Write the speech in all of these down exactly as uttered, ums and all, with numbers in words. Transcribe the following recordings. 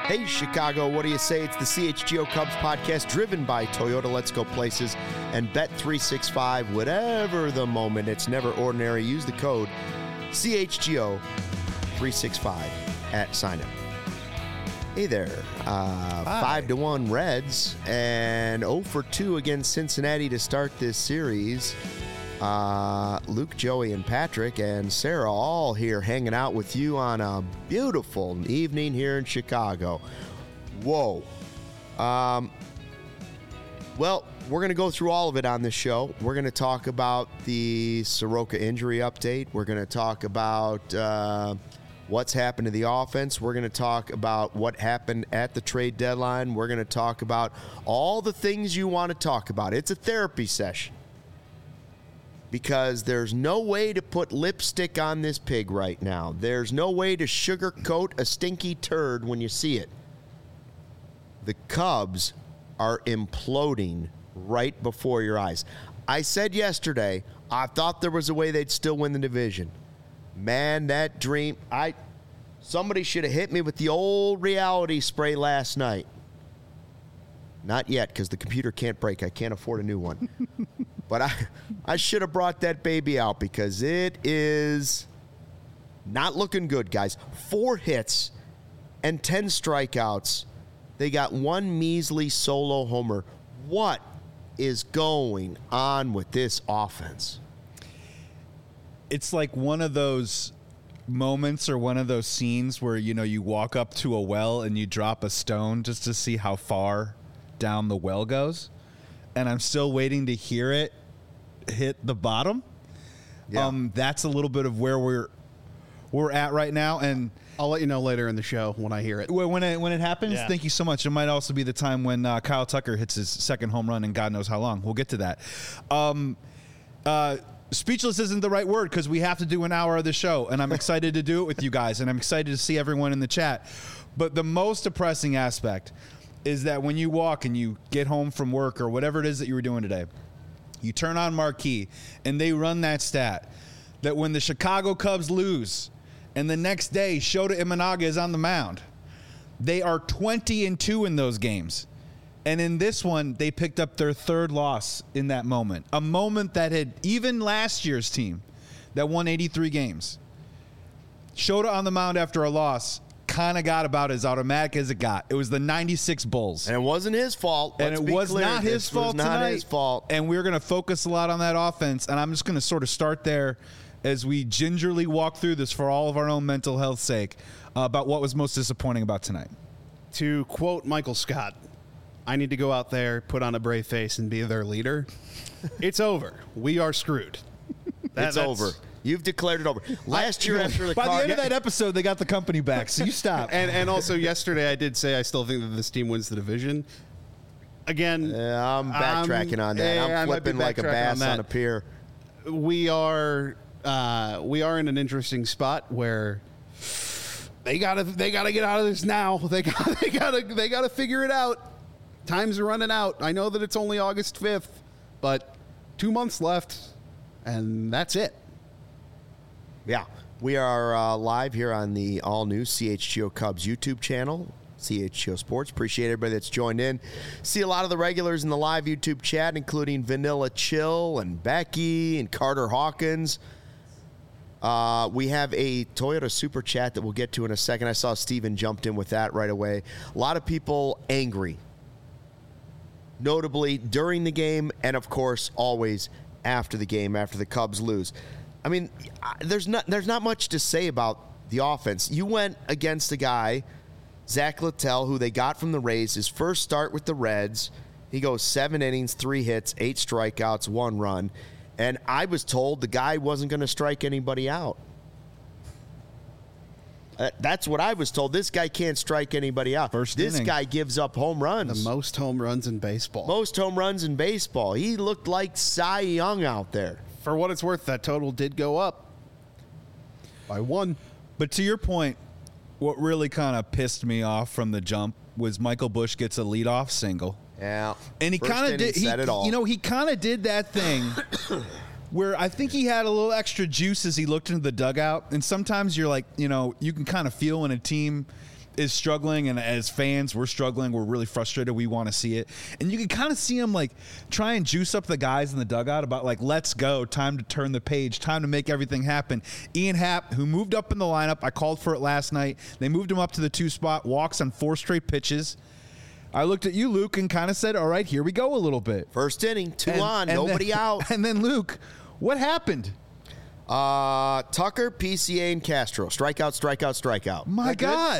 Hey, Chicago, what do you say? It's the C H G O Cubs podcast driven by Toyota Let's Go Places and Bet three sixty-five. Whatever the moment, it's never ordinary. Use the code C H G O three sixty-five at sign up. Hey there. Uh, five to one Reds and oh for two against Cincinnati to start this series. Uh, Luke, Joey, and Patrick and Sarah all here hanging out with you on a beautiful evening here in Chicago. Whoa. Um, well, we're going to go through all of it on this show. We're going to talk about the Soroka injury update. We're going to talk about uh, what's happened to the offense. We're going to talk about what happened at the trade deadline. We're going to talk about all the things you want to talk about. It's a therapy session. Because there's no way to put lipstick on this pig right now. There's no way to sugarcoat a stinky turd when you see it. The Cubs are imploding right before your eyes. I said yesterday, I thought there was a way they'd still win the division. Man, that dream, I somebody should have hit me with the old reality spray last night. Not yet, because the computer can't break. I can't afford a new one. But I, I should have brought that baby out because it is not looking good, guys. Four hits and ten strikeouts. They got one measly solo homer. What is going on with this offense? It's like one of those moments or one of those scenes where, you know, you walk up to a well and you drop a stone just to see how far down the well goes. And I'm still waiting to hear it hit the bottom. Yeah. Um, that's a little bit of where we're we're at right now, and I'll let you know later in the show when I hear it. When it when it happens, yeah. Thank you so much. It might also be the time when uh, Kyle Tucker hits his second home run, and God knows how long. We'll get to that. Um, uh, speechless isn't the right word because we have to do an hour of the show, and I'm excited to do it with you guys, and I'm excited to see everyone in the chat. But the most depressing aspect is that when you walk and you get home from work or whatever it is that you were doing today, you turn on Marquee and they run that stat that when the Chicago Cubs lose and the next day Shota Imanaga is on the mound, they are twenty and two in those games. And in this one, they picked up their third loss in that moment, a moment that had even last year's team that won eighty-three games. Shota on the mound after a loss kind of got about as automatic as it got. It was the ninety-six Bulls. And it wasn't his fault. And it was clear. not his this fault was not tonight. his fault. And we're going to focus a lot on that offense. And I'm just going to sort of start there as we gingerly walk through this for all of our own mental health's sake uh, about what was most disappointing about tonight. To quote Michael Scott, I need to go out there, put on a brave face, and be their leader. It's over. We are screwed. That, it's over. You've declared it over. Last year after the By car, the end of that episode, they got the company back, so you stop. and and also yesterday I did say I still think that this team wins the division. Again, yeah, I'm backtracking um, on that. Yeah, I'm flipping like a bass on, on a pier. We are uh, we are in an interesting spot where they gotta they gotta get out of this now. They got they gotta they gotta figure it out. Time's running out. I know that it's only August fifth, but two months left, and that's it. Yeah, we are uh, live here on the all-new C H G O Cubs YouTube channel, C H G O Sports. Appreciate everybody that's joined in. See a lot of the regulars in the live YouTube chat, including Vanilla Chill and Becky and Carter Hawkins. Uh, we have a Toyota Super Chat that we'll get to in a second. I saw Steven jumped in with that right away. A lot of people angry, notably during the game and, of course, always after the game, after the Cubs lose. I mean, there's not there's not much to say about the offense. You went against a guy, Zach Littell, who they got from the Rays, his first start with the Reds. He goes seven innings, three hits, eight strikeouts, one run. And I was told the guy wasn't going to strike anybody out. Uh, that's what I was told. This guy can't strike anybody out. First this inning. guy gives up home runs. The most home runs in baseball. Most home runs in baseball. He looked like Cy Young out there. For what it's worth, that total did go up by one. But to your point, what really kind of pissed me off from the jump was Michael Busch gets a leadoff single. Yeah. And he kind of did, he, said it all. you know, he kind of did that thing where I think he had a little extra juice as he looked into the dugout. And sometimes you're like, you know, you can kind of feel when a team is struggling, and as fans, we're struggling. We're really frustrated. We want to see it. And you can kind of see him like try and juice up the guys in the dugout about like, let's go, time to turn the page, time to make everything happen. Ian Happ, who moved up in the lineup, I called for it last night. They moved him up to the two spot, walks on four straight pitches. I looked at you, Luke, and kind of said, all right, here we go a little bit. First inning, two And- on, and nobody then- out. And then, Luke, what happened? Uh, Tucker, P C A, and Castro. Strikeout, strikeout, strikeout. My that good? God.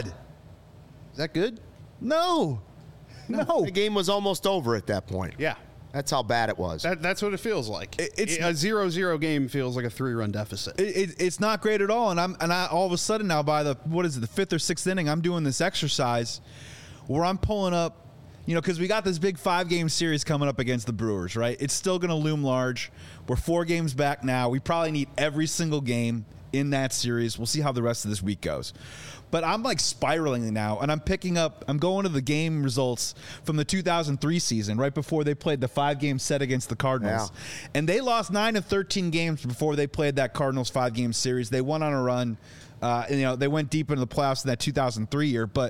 Is that good? No. No. The game was almost over at that point. Yeah. That's how bad it was. That, that's what it feels like. It- it's- a zero zero game feels like a three-run deficit. It, it, it's not great at all, and I'm and I all of a sudden now by the what is it the fifth or sixth inning I'm doing this exercise where I'm pulling up, you know, because we got this big five game series coming up against the Brewers, right? It's still going to loom large. We're four games back now. We probably need every single game in that series. We'll see how the rest of this week goes. But I'm like spiraling now, and I'm picking up, I'm going to the game results from the two thousand three season, right before they played the five-game set against the Cardinals. Yeah. And they lost nine of thirteen games before they played that Cardinals five-game series. They went on a run. Uh, and, you know, they went deep into the playoffs in that two thousand three year. But,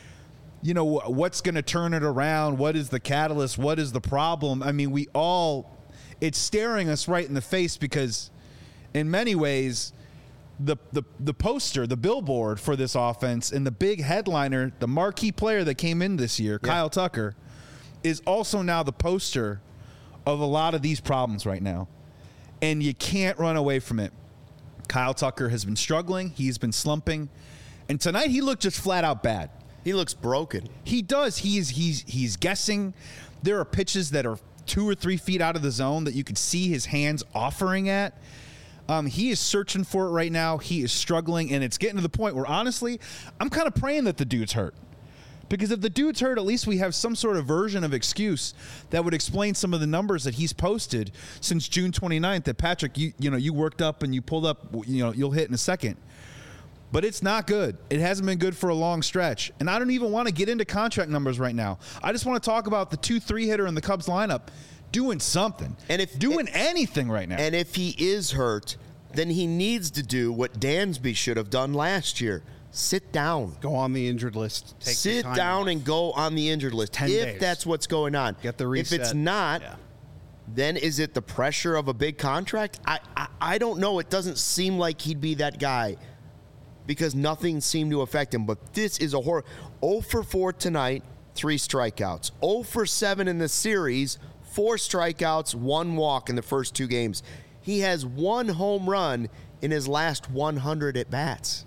you know, what's going to turn it around? What is the catalyst? What is the problem? I mean, we all, it's staring us right in the face because in many ways, The, the the poster, the billboard for this offense, and the big headliner, the marquee player that came in this year, Yeah. Kyle Tucker, is also now the poster of a lot of these problems right now. And you can't run away from it. Kyle Tucker has been struggling. He's been slumping. And tonight he looked just flat out bad. He looks broken. He does. He's he's he's guessing. There are pitches that are two or three feet out of the zone that you could see his hands offering at. Um, he is searching for it right now. He is struggling, and it's getting to the point where, honestly, I'm kind of praying that the dude's hurt. Because if the dude's hurt, at least we have some sort of version of excuse that would explain some of the numbers that he's posted since June twenty-ninth that, Patrick, you you know, you worked up and you pulled up, you know, you'll hit in a second. But it's not good. It hasn't been good for a long stretch. And I don't even want to get into contract numbers right now. I just want to talk about the two three hitter in the Cubs lineup doing something. And if doing anything right now. And if he is hurt, then he needs to do what Dansby should have done last year. Sit down. Go on the injured list. Take the Sit time down off. and go on the injured list. ten if days. that's what's going on. Get the If it's reset. not, Yeah. then is it the pressure of a big contract? I, I I don't know. It doesn't seem like he'd be that guy because nothing seemed to affect him. But this is a horror. oh for four tonight, three strikeouts. oh for seven in the series, four strikeouts, one walk in the first two games. He has one home run in his last one hundred at bats.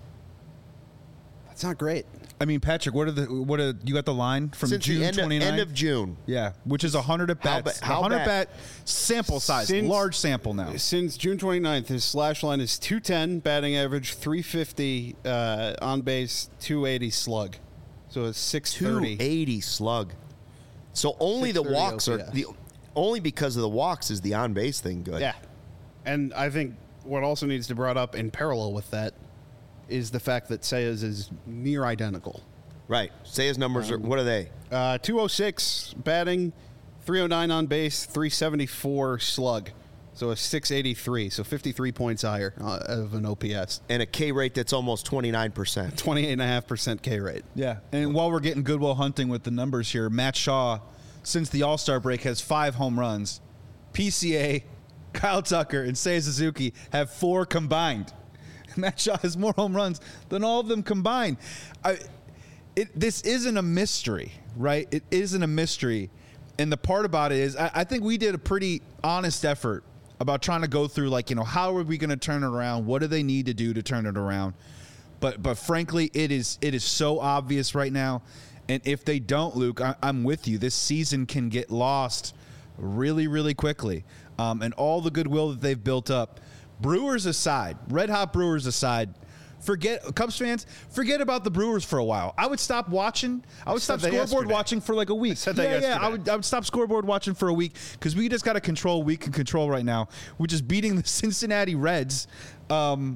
That's not great. I mean, Patrick, what are the what are you got the line from Since June the end of, twenty-ninth? end of June. Yeah, which is one hundred at How bats. ba- how one hundred bad? bat sample size, Since- large sample now. Since June twenty-ninth, his slash line is two ten, batting average three fifty, uh, on base two eighty slug. So it's six thirty. two eighty slug. So only the six thirty walks are O P S. the only because of the walks is the on base thing good. Yeah. And I think what also needs to be brought up in parallel with that is the fact that Sayers is near identical. Right. Say his numbers are what are they? Uh, two oh six batting, three oh nine on base, three seventy-four slug. So a six eighty-three, so fifty-three points higher uh, of an O P S. And a K rate that's almost twenty-nine percent. twenty-eight point five percent K rate. Yeah, and while we're getting Goodwill Hunting with the numbers here, Matt Shaw, since the All-Star break, has five home runs. P C A, Kyle Tucker, and Seiya Suzuki have four combined. Matt Shaw has more home runs than all of them combined. I, it, this isn't a mystery, right? It isn't a mystery. And the part about it is, I, I think we did a pretty honest effort about trying to go through, like, you know, how are we going to turn it around? What do they need to do to turn it around? But but frankly, it is it is so obvious right now. And if they don't, Luke, I, I'm with you. This season can get lost really, really quickly. Um, and all the goodwill that they've built up, Brewers aside, Red Hot Brewers aside, forget Cubs fans, forget about the Brewers for a while. I would stop watching. I would said stop that scoreboard yesterday. watching for like a week. said that yeah, yeah. yesterday. I would I would stop scoreboard watching for a week because we just got to control what we can control right now, which is beating the Cincinnati Reds. Um,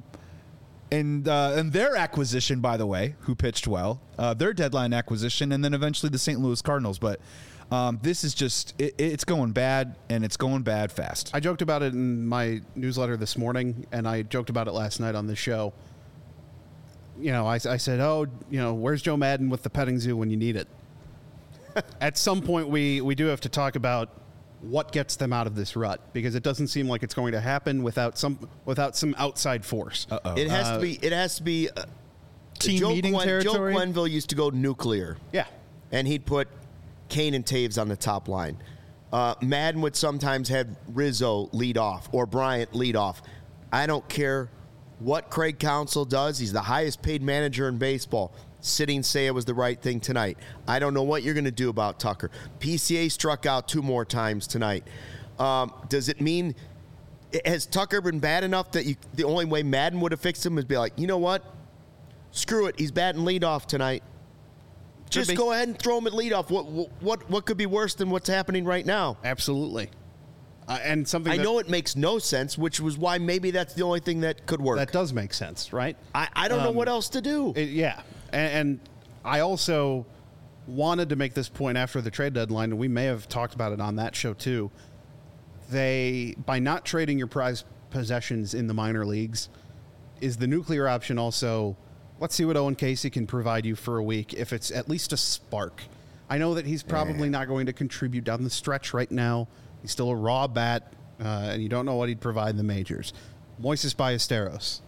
And uh, and their acquisition, by the way, who pitched well, uh, their deadline acquisition, and then eventually the Saint Louis Cardinals. But um, this is just, it, it's going bad, and it's going bad fast. I joked about it in my newsletter this morning, and I joked about it last night on the show. you know, I, I said, oh, you know, where's Joe Madden with the petting zoo when you need it? At some point, we, we do have to talk about what gets them out of this rut, because it doesn't seem like it's going to happen without some without some outside force. Uh-oh. It has Uh, to be. It has to be. Uh, Team Joe meeting Joe territory? Quenneville used to go nuclear. Yeah. And he'd put Kane and Taves on the top line. Uh, Madden would sometimes have Rizzo lead off or Bryant lead off. I don't care what Craig Counsell does. He's the highest paid manager in baseball. Sitting say it was the right thing tonight. I don't know what you're going to do about Tucker. P C A struck out two more times tonight. Um, does it mean, has Tucker been bad enough that you, the only way Madden would have fixed him is be like, you know what? Screw it. He's batting leadoff tonight. Just be. go ahead and throw him at leadoff. What what what could be worse than what's happening right now? Absolutely. Uh, and something I that, know it makes no sense, which was why maybe that's the only thing that could work. that does make sense, right? I, I don't know um, what else to do. It- yeah. And, and I also wanted to make this point after the trade deadline, and we may have talked about it on that show too. They, by not trading your prize possessions in the minor leagues, is the nuclear option also, let's see what Owen Casey can provide you for a week, if it's at least a spark. I know that he's probably not going to contribute down the stretch right now. He's still a raw bat, uh, and you don't know what he'd provide in the majors. Moises Ballesteros.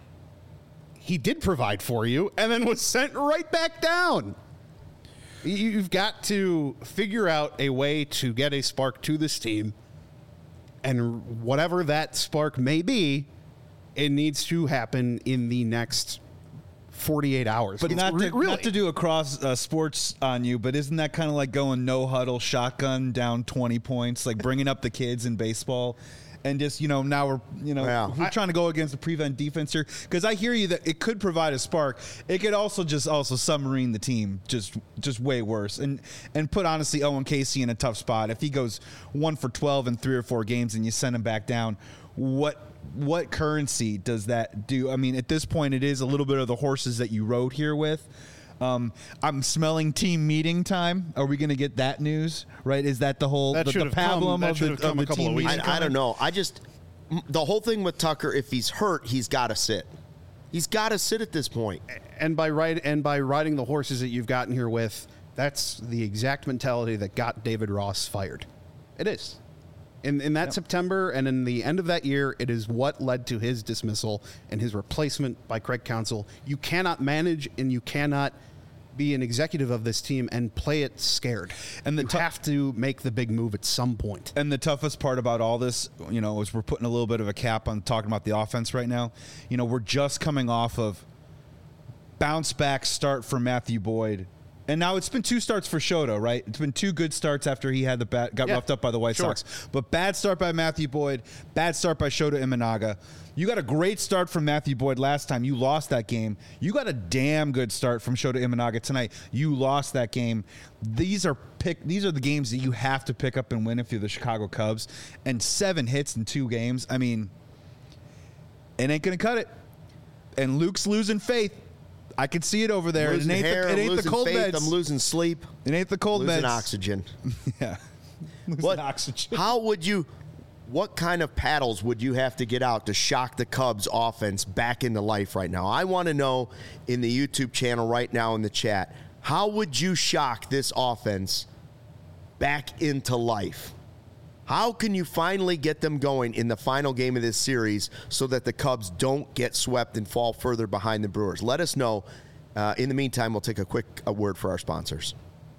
He did provide for you and then was sent right back down. You- You've got to figure out a way to get a spark to this team, and whatever that spark may be, it needs to happen in the next forty-eight hours. But It's not re- to, really. not to do a cross uh, sports on you, but isn't that kind of like going no huddle shotgun down twenty points, like bringing up the kids in baseball? And just, you know, now we're, you know, Yeah. we're trying to go against the prevent defense here. Because I hear you that it could provide a spark. It could also just also submarine the team just just way worse. And and put, honestly, Owen Casey in a tough spot. If he goes one for twelve in three or four games and you send him back down, what what currency does that do? I mean, at this point, it is a little bit of the horses that you rode here with. Um, I'm smelling team meeting time. Are we going to get that news? Right? Is that the whole That the, should the have come- pablum that of should the, have come of a the couple of team weeks meeting? I, I don't know. I just, m- the whole thing with Tucker, if he's hurt, he's got to sit. He's got to sit at this point. and by ride and by riding the horses that you've gotten here with, that's the exact mentality that got David Ross fired. It is. In in that September and in the end of that year, it is what led to his dismissal and his replacement by Craig Counsell. You cannot manage and you cannot be an executive of this team and play it scared. And the you tou- have to make the big move at some point. And the toughest part about all this, you know, is we're putting a little bit of a cap on talking about the offense right now. You know, we're just coming off of bounce back start for Matthew Boyd. And now it's been two starts for Shota, right? It's been two good starts after he had the bat, got Yeah, roughed up by the White sure. Sox. But bad start by Matthew Boyd, bad start by Shota Imanaga. You got a great start from Matthew Boyd last time. You lost that game. You got a damn good start from Shota Imanaga tonight. You lost that game. These are pick. These are the games that you have to pick up and win if you're the Chicago Cubs. And seven hits in two games. I mean, it ain't gonna cut it. And Luke's losing faith. I can see it over there. Losing it ain't, hair, the, it I'm ain't the losing cold faith, meds. I'm losing sleep. It ain't the cold losing meds. oxygen. Yeah. Losing What? oxygen. How would you? What kind of paddles would you have to get out to shock the Cubs offense back into life right now? I want to know in the YouTube channel right now in the chat, how would you shock this offense back into life? How can you finally get them going in the final game of this series so that the Cubs don't get swept and fall further behind the Brewers? Let us know. Uh, in the meantime, we'll take a quick a word for our sponsors.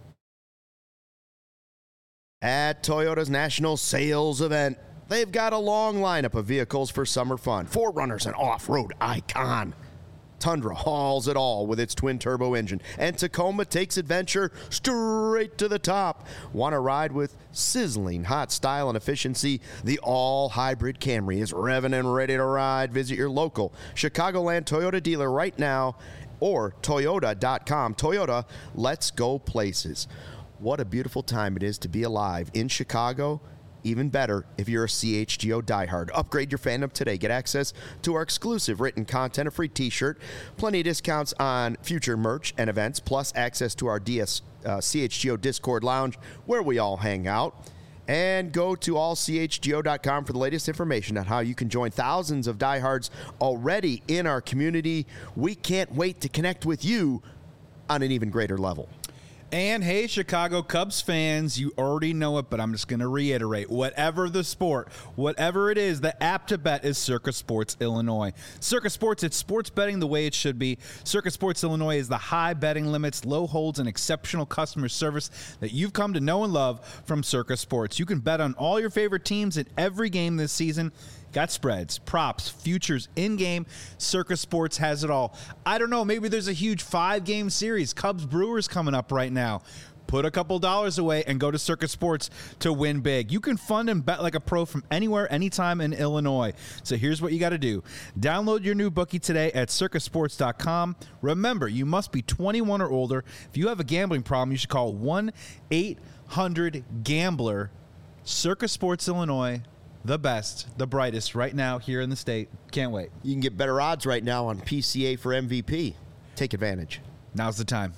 At Toyota's National Sales Event, they've got a long lineup of vehicles for summer fun. four runners, an off-road icon. Tundra hauls it all with its twin-turbo engine. And Tacoma takes adventure straight to the top. Want to ride with sizzling hot style and efficiency? The all-hybrid Camry is revving and ready to ride. Visit your local Chicagoland Toyota dealer right now or Toyota dot com. Toyota, let's go places. What a beautiful time it is to be alive in Chicago. Even better if you're a C H G O diehard. Upgrade your fandom today. Get access to our exclusive written content, a free t-shirt, plenty of discounts on future merch and events, plus access to our D S, uh, C H G O Discord lounge where we all hang out. And go to all c h g o dot com for the latest information on how you can join thousands of diehards already in our community. We can't wait to connect with you on an even greater level. And hey, Chicago Cubs fans, you already know it, but I'm just going to reiterate. Whatever the sport, whatever it is, the app to bet is Circa Sports Illinois. Circa Sports, it's sports betting the way it should be. Circa Sports Illinois is the high betting limits, low holds, and exceptional customer service that you've come to know and love from Circa Sports. You can bet on all your favorite teams in every game this season. Got spreads, props, futures, in-game. Circa Sports has it all. I don't know, maybe there's a huge five-game series. Cubs-Brewers coming up right now. Put a couple dollars away and go to Circa Sports to win big. You can fund and bet like a pro from anywhere, anytime in Illinois. So here's what you got to do. Download your new bookie today at circa sports dot com. Remember, you must be twenty-one or older. If you have a gambling problem, you should call one eight hundred gambler. Circa Sports Illinois. The best, the brightest right now here in the state. Can't wait. You can get better odds right now on P C A for M V P. Take advantage. Now's the time.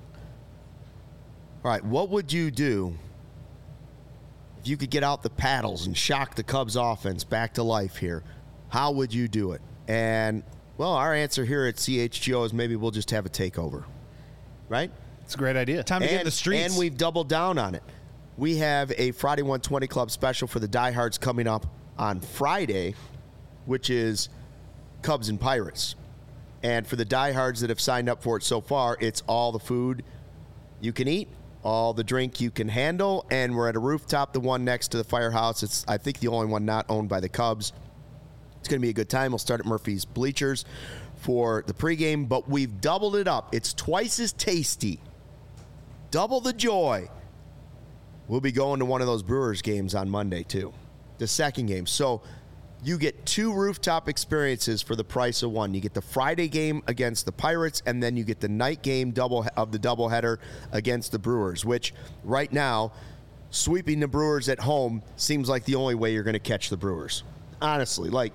All right, what would you do if you could get out the paddles and shock the Cubs offense back to life here? How would you do it? And, well, our answer here at C H G O is maybe we'll just have a takeover, right? It's a great idea. Time to and, get in the streets. And we've doubled down on it. We have a Friday one twenty Club special for the diehards coming up on Friday, which is Cubs and Pirates. And for the diehards that have signed up for it so far, it's all the food you can eat, all the drink you can handle, and we're at a rooftop, the one next to the firehouse. It's, I think, the only one not owned by the Cubs. It's going to be a good time. We'll start at Murphy's Bleachers for the pregame, but we've doubled it up. It's twice as tasty. Double the joy. We'll be going to one of those Brewers games on Monday, too, the second game. So you get two rooftop experiences for the price of one. You get the Friday game against the Pirates, and then you get the night game double of the doubleheader against the Brewers, which right now, sweeping the Brewers at home seems like the only way you're going to catch the Brewers. Honestly, like,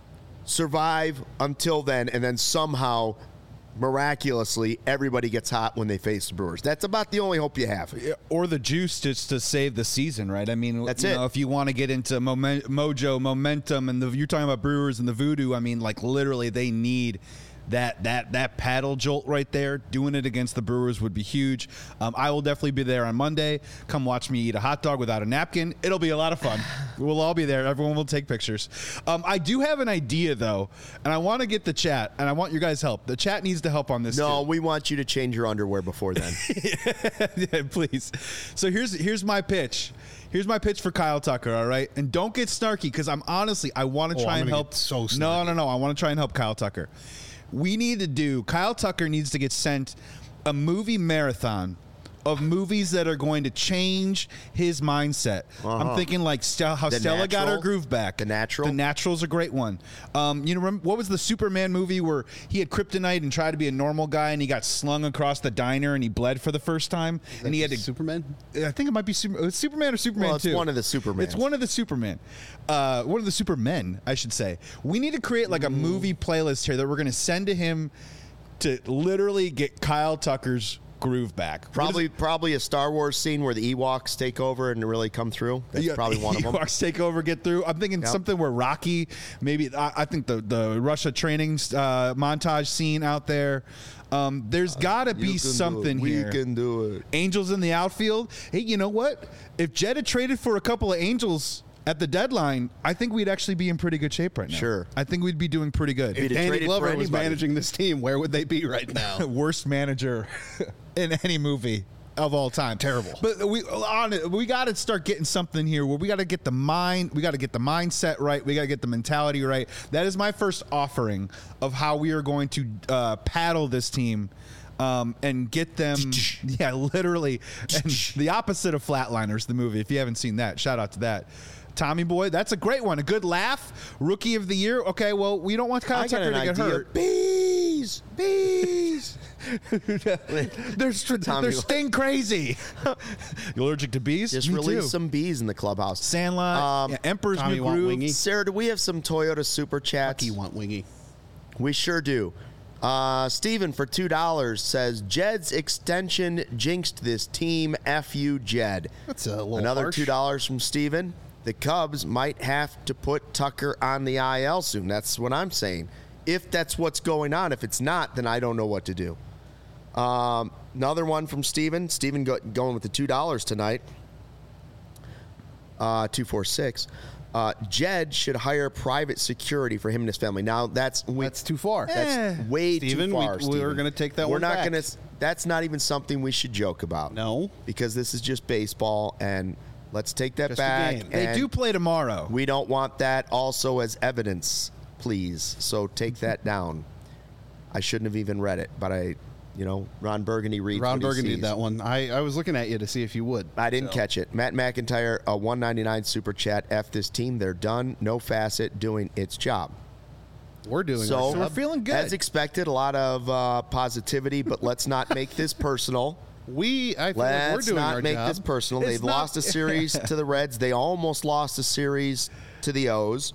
survive until then, and then somehow miraculously, everybody gets hot when they face the Brewers. That's about the only hope you have. Or the juice just to save the season, right? I mean, That's you it. know, if you want to get into moment, mojo, momentum, and the, you're talking about Brewers and the voodoo, I mean, like, literally, they need that that that paddle jolt right there. Doing it against the Brewers would be huge. Um, I will definitely be there on Monday. Come watch me eat a hot dog without a napkin. It'll be a lot of fun. We'll all be there. Everyone will take pictures. Um, I do have an idea, though, and I want to get the chat, and I want your guys' help. The chat needs to help on this, No, too. we want you to change your underwear before then. Yeah, please. So here's here's my pitch. Here's my pitch for Kyle Tucker, all right? And don't get snarky, because I'm honestly, I want to Oh, try I'm and gonna help. get so no, snarky. no, no. I want to try and help Kyle Tucker. We need to do, Kyle Tucker needs to get sent a movie marathon of movies that are going to change his mindset. Uh-huh. I'm thinking like Stel- how The Stella got her Natural? groove back. The Natural? The Natural's a great one. Um, you know, remember, what was the Superman movie where he had kryptonite and tried to be a normal guy and he got slung across the diner and he bled for the first time and he had to. Superman? I think it might be Super, it's Superman or Superman Well, it's two. one of the Supermans. It's one of the Superman. Uh, one of the Supermen, I should say. We need to create like a movie playlist here that we're going to send to him to literally get Kyle Tucker's groove back. Probably probably a Star Wars scene where the Ewoks take over and really come through. That's Yeah, probably one of them. Ewoks take over, get through. I'm thinking Yep. something where Rocky, maybe, I, I think the, the Russia training uh, montage scene out there. Um, there's got to You be can do something it. We here. can do it. Angels in the outfield. Hey, you know what? If Jed had traded for a couple of Angels at the deadline, I think we'd actually be in pretty good shape right now. Sure. I think we'd be doing pretty good. If- If He'd have Danny traded for Glover was anybody. managing this team, where would they be right now? Worst manager in any movie of all time. Terrible. But we on it, we got to start getting something here where we got to get the mind, we got to get the mindset right, we got to get the mentality right. That is my first offering of how we are going to uh, paddle this team. Um, and get them, yeah, literally, and the opposite of Flatliners, the movie. If you haven't seen that, shout out to that. Tommy Boy, that's a great one. A good laugh. Rookie of the year. Okay, well, we don't want Kyle I got Tucker an to get idea. hurt. Bees, bees. They're, st- Tommy they're Boy. sting crazy. You allergic to bees? Just Me release too. some bees in the clubhouse. Sandlot, Um, yeah, Emperor's Tommy New want Groove. wingy? Sarah, do we have some Toyota Super Chats? You want wingy? We sure do. Uh, Steven for two dollars says, Jed's extension jinxed this team. F you, Jed. That's a little Another harsh. two dollars from Steven. The Cubs might have to put Tucker on the I L soon. That's what I'm saying. If that's what's going on. If it's not, then I don't know what to do. Um, another one from Steven. Steven go, going with the two dollars tonight. Uh, two four six. Uh, Jed should hire private security for him and his family. Now that's we, That's too far. that's Eh. way Steven, too we- far. we Steven. were gonna take that We're one not back. gonna. That's not even something we should joke about. No. because this is just baseball, and let's take that Just a back. game. They and do play tomorrow. We don't want that also as evidence, please. So take that down. I shouldn't have even read it, but I, you know, Ron Burgundy reads. Ron what he Burgundy sees. did that one. I, I was looking at you to see if you would. I didn't So. catch it. Matt McIntyre, a one ninety-nine super chat. F this team. They're done. No facet doing its job. We're doing So, our So we're job. feeling good. As expected, a lot of uh, positivity, but let's not make this personal. We, I feel like we're Let's doing not our make job. this personal. It's They've not- lost a series to the Reds. They almost lost a series to the O's.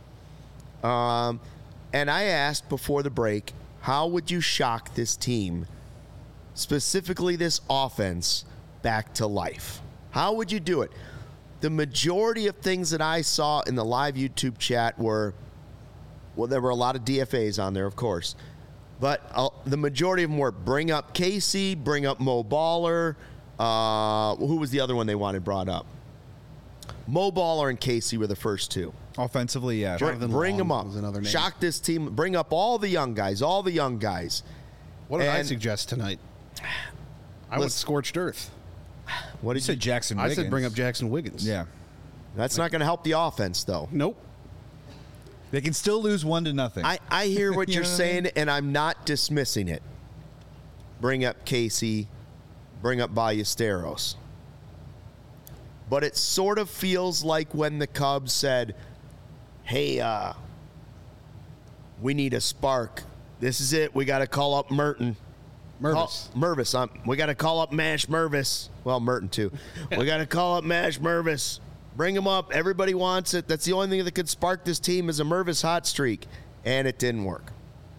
Um, and I asked before the break, how would you shock this team, specifically this offense, back to life? How would you do it? The majority of things that I saw in the live YouTube chat were, well, there were a lot of D F As on there, of course. But uh, the majority of them were bring up Casey, bring up Mo Baller. Uh, who was the other one they wanted brought up? Mo Baller and Casey were the first two. Offensively, yeah. Bring, Jonathan bring Long them up. was another name. Shock this team. Bring up all the young guys, all the young guys. What did I And- suggest tonight? I went Listen- scorched earth. What You did you said Jackson I Wiggins. said bring up Jackson Wiggins. Yeah. That's not going to help the offense, though. Nope. They can still lose one to nothing. I, I hear what You you're know what I saying, mean? and I'm not dismissing it. Bring up Casey, bring up Ballesteros. But it sort of feels like when the Cubs said, hey, uh, we need a spark. This is it. We got to call up Merton. Mervis. Call, Mervis. Um, we got to call up Mash Mervis. Well, Merton, too. We got to call up Mash Mervis. Bring him up. Everybody wants it. That's the only thing that could spark this team is a Mervis hot streak. And it didn't work.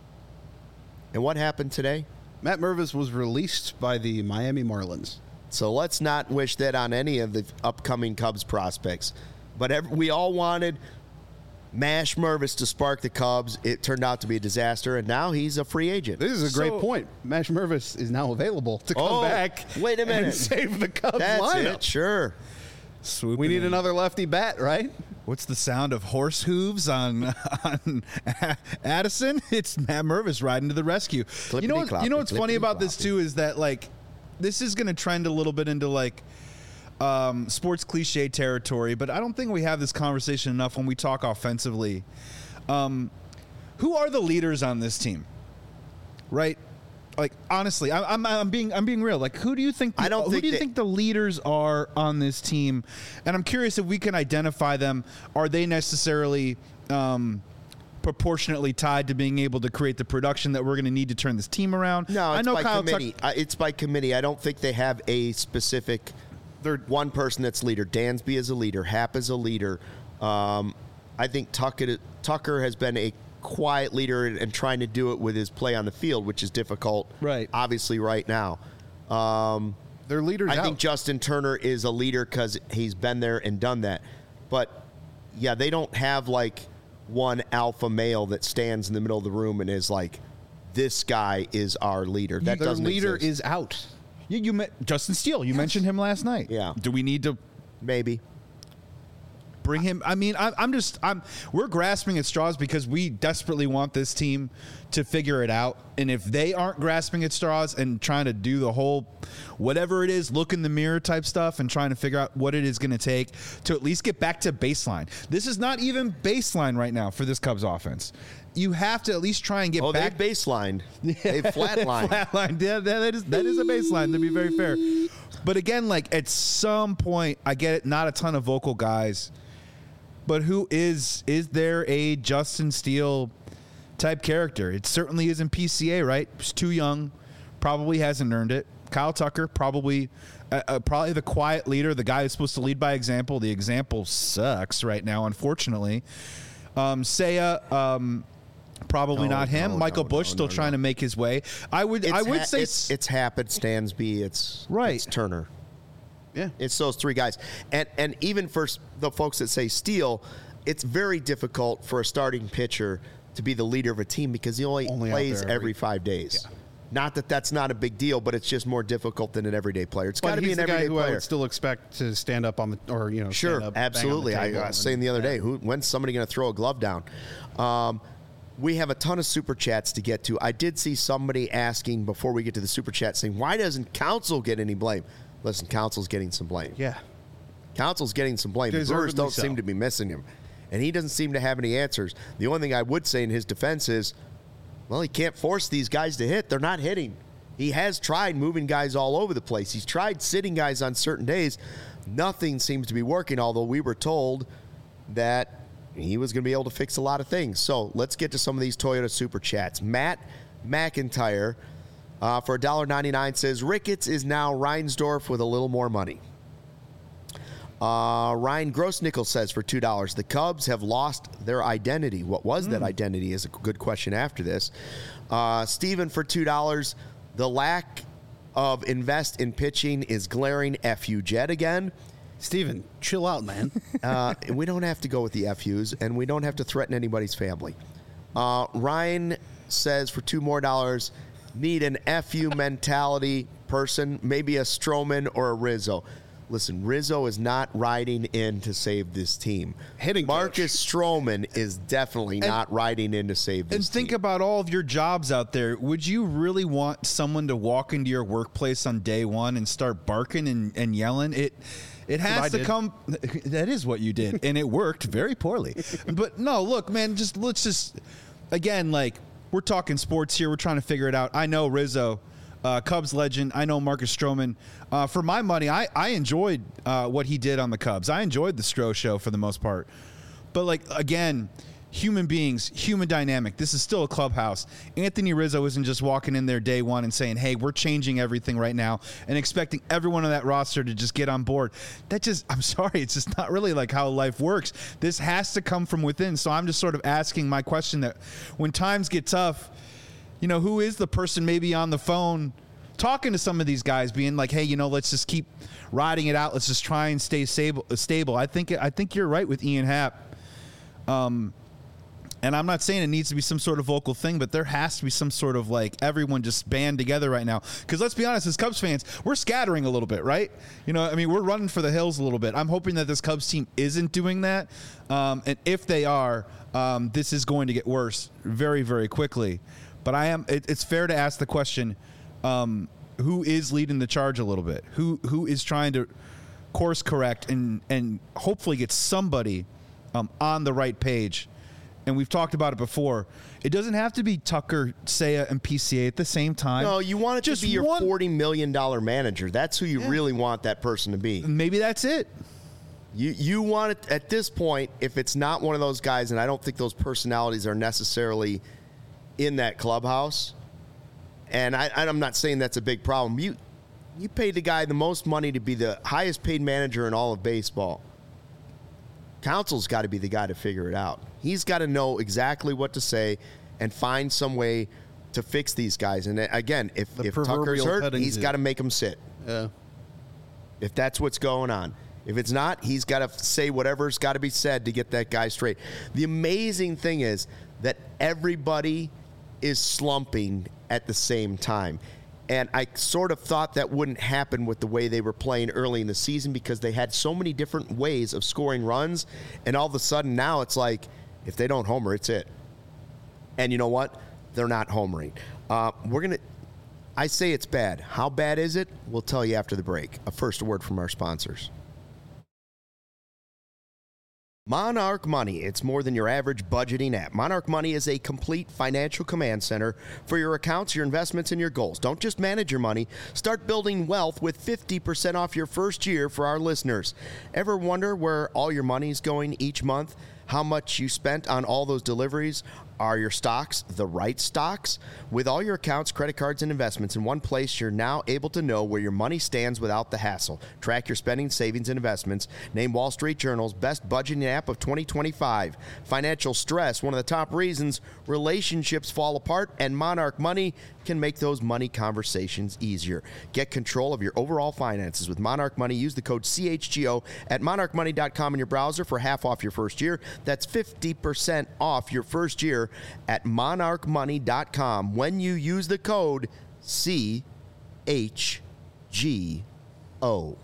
And what happened today? Matt Mervis was released by the Miami Marlins. So let's not wish that on any of the upcoming Cubs prospects. But every, we all wanted Mash Mervis to spark the Cubs. It turned out to be a disaster, and now he's a free agent. This is a great So- point. Mash Mervis is now available to come Oh, back. wait a minute. And save the Cubs That's lineup. it, sure. Swooping We need in. another lefty bat, right? What's the sound of horse hooves on on Addison? It's Matt Mervis riding to the rescue. You know, what, you know what's funny about this too is that like this is going to trend a little bit into like um, sports cliche territory, but I don't think we have this conversation enough when we talk offensively. Um, who are the leaders on this team? Right? Like honestly, I, I'm I'm being I'm being real. Like, who do you think? The, I don't who think do you that- think the leaders are on this team? And I'm curious if we can identify them. Are they necessarily um, proportionately tied to being able to create the production that we're going to need to turn this team around? No, it's I know by Kyle Tuck- committee. Uh, it's by committee. I don't think they have a specific They're one person that's leader. Dansby is a leader. Happ is a leader. Um, I think Tucker, Tucker has been a quiet leader and, and trying to do it with his play on the field, which is difficult, Right. obviously, right now. Um, their leaders I out. think Justin Turner is a leader because he's been there and done that. But, yeah, they don't have, like, one alpha male that stands in the middle of the room and is like, this guy is our leader. That their doesn't leader exist. is out. You, you met Justin Steele. You mentioned him last night. Yeah. Do we need to Maybe. bring him? I mean, I'm, I'm just, I'm, we're grasping at straws because we desperately want this team to figure it out. And if they aren't grasping at straws and trying to do the whole, whatever it is, look in the mirror type stuff and trying to figure out what it is going to take to at least get back to baseline. This is not even baseline right now for this Cubs offense. You have to at least try and get Oh, back. they've baselined. They've flatlined. Flatline. Yeah, that that is that is a baseline, to be very fair. But again, like at some point, I get it. Not a ton of vocal guys, but who is is there a Justin Steele type character? It certainly isn't P C A, right? He's too young, probably hasn't earned it. Kyle Tucker, probably uh, uh, probably the quiet leader, the guy who's supposed to lead by example. The example sucks right now, unfortunately. Um, Seiya. Um, Probably No, not him. no, Michael no, Bush no, still no, trying no. to make his way. I would It's I would ha- say it's, it's Happett, Stansby, it's Right. it's Turner. Yeah. It's those three guys. And and even for s- the folks that say Steele, it's very difficult for a starting pitcher to be the leader of a team because he only, Only out plays there every, every- five days. Yeah. Not that that's not a big deal, but it's just more difficult than an everyday player. It's got But to be he's an the guy everyday who I player. would still expect to stand up on the or you know Sure, stand up, bang on the absolutely. I, table I was saying and- the other day, who when's somebody going to throw a glove down? Um, we have a ton of super chats to get to. I did see somebody asking before we get to the super chat saying, why doesn't Council get any blame? Listen, Council's getting some blame. Yeah. Council's getting some blame. The Brewers Deservedly don't so. seem to be missing him. And he doesn't seem to have any answers. The only thing I would say in his defense is, well, he can't force these guys to hit. They're not hitting. He has tried moving guys all over the place. He's tried sitting guys on certain days. Nothing seems to be working, although we were told that he was going to be able to fix a lot of things. So let's get to some of these Toyota Super Chats. Matt McIntyre uh, for one dollar ninety-nine says, Ricketts is now Reinsdorf with a little more money. Uh, Ryan Grossnickel says for two dollars, the Cubs have lost their identity. What was that identity is a good question after this. Uh, Steven for two dollars, the lack of invest in pitching is glaring. F you, Jed, again. Steven, chill out, man. Uh, we don't have to go with the F Us, and we don't have to threaten anybody's family. Uh, Ryan says for two more dollars, need an F U mentality person, maybe a Stroman or a Rizzo. Listen, Rizzo is not riding in to save this team. Hitting coach. Marcus Stroman is definitely not riding in to save this And think team. about all of your jobs out there. Would you really want someone to walk into your workplace on day one and start barking and, and yelling? It it what I has to did. come. That is what you did, and it worked very poorly. But no, look, man, just let's just again, like we're talking sports here. We're trying to figure it out. I know Rizzo, uh, Cubs legend. I know Marcus Stroman. Uh, for my money, I I enjoyed uh, what he did on the Cubs. I enjoyed the Stroh show for the most part. But like again, human beings, human dynamic. This is still a clubhouse. Anthony Rizzo isn't just walking in there day one and saying, "Hey, we're changing everything right now," and expecting everyone on that roster to just get on board. That just, I'm sorry, it's just not really like how life works. This has to come from within. So I'm just sort of asking my question that when times get tough, you know, who is the person maybe on the phone talking to some of these guys, being like, "Hey, you know, let's just keep riding it out. Let's just try and stay stable." Stable. I think I think you're right with Ian Happ. Um, and I'm not saying it needs to be some sort of vocal thing, but there has to be some sort of like everyone just band together right now. Because let's be honest, as Cubs fans, we're scattering a little bit, right? You know, I mean, we're running for the hills a little bit. I'm hoping that this Cubs team isn't doing that. Um, and if they are, um, this is going to get worse very, very quickly. But I am. It, it's fair to ask the question: um, who is leading the charge a little bit? Who who is trying to course correct and and hopefully get somebody um, on the right page? And we've talked about it before. It doesn't have to be Tucker, Seiya, and P C A at the same time. No, you want it Just to be your one- forty million dollars manager. That's who you really want that person to be. Maybe that's it. You you want it at this point, if it's not one of those guys, and I don't think those personalities are necessarily in that clubhouse, and I, I'm not saying that's a big problem. You you paid the guy the most money to be the highest paid manager in all of baseball. Council's got to be the guy to figure it out. He's got to know exactly what to say and find some way to fix these guys. And again, if, The if Tucker's proverbial hurt, petting he's zoo. got to make him sit. Yeah. If that's what's going on. If it's not, he's got to say whatever's got to be said to get that guy straight. The amazing thing is that everybody is slumping at the same time. And I sort of thought that wouldn't happen with the way they were playing early in the season because they had so many different ways of scoring runs. And all of a sudden now it's like, if they don't homer, it's it. And you know what? They're not homering. Uh, we're going to... I say it's bad. How bad is it? We'll tell you after the break. A first word from our sponsors. Monarch Money. It's more than your average budgeting app. Monarch Money is a complete financial command center for your accounts, your investments, and your goals. Don't just manage your money. Start building wealth with fifty percent off your first year for our listeners. Ever wonder where all your money is going each month? How much you spent on all those deliveries? Are your stocks the right stocks? With all your accounts, credit cards, and investments in one place, you're now able to know where your money stands without the hassle. Track your spending, savings, and investments. Named Wall Street Journal's best budgeting app of twenty twenty-five. Financial stress, one of the top reasons relationships fall apart, and Monarch Money can make those money conversations easier. Get control of your overall finances with Monarch Money. Use the code C H G O at monarch money dot com in your browser for half off your first year. That's fifty percent off your first year at monarch money dot com when you use the code C H G O.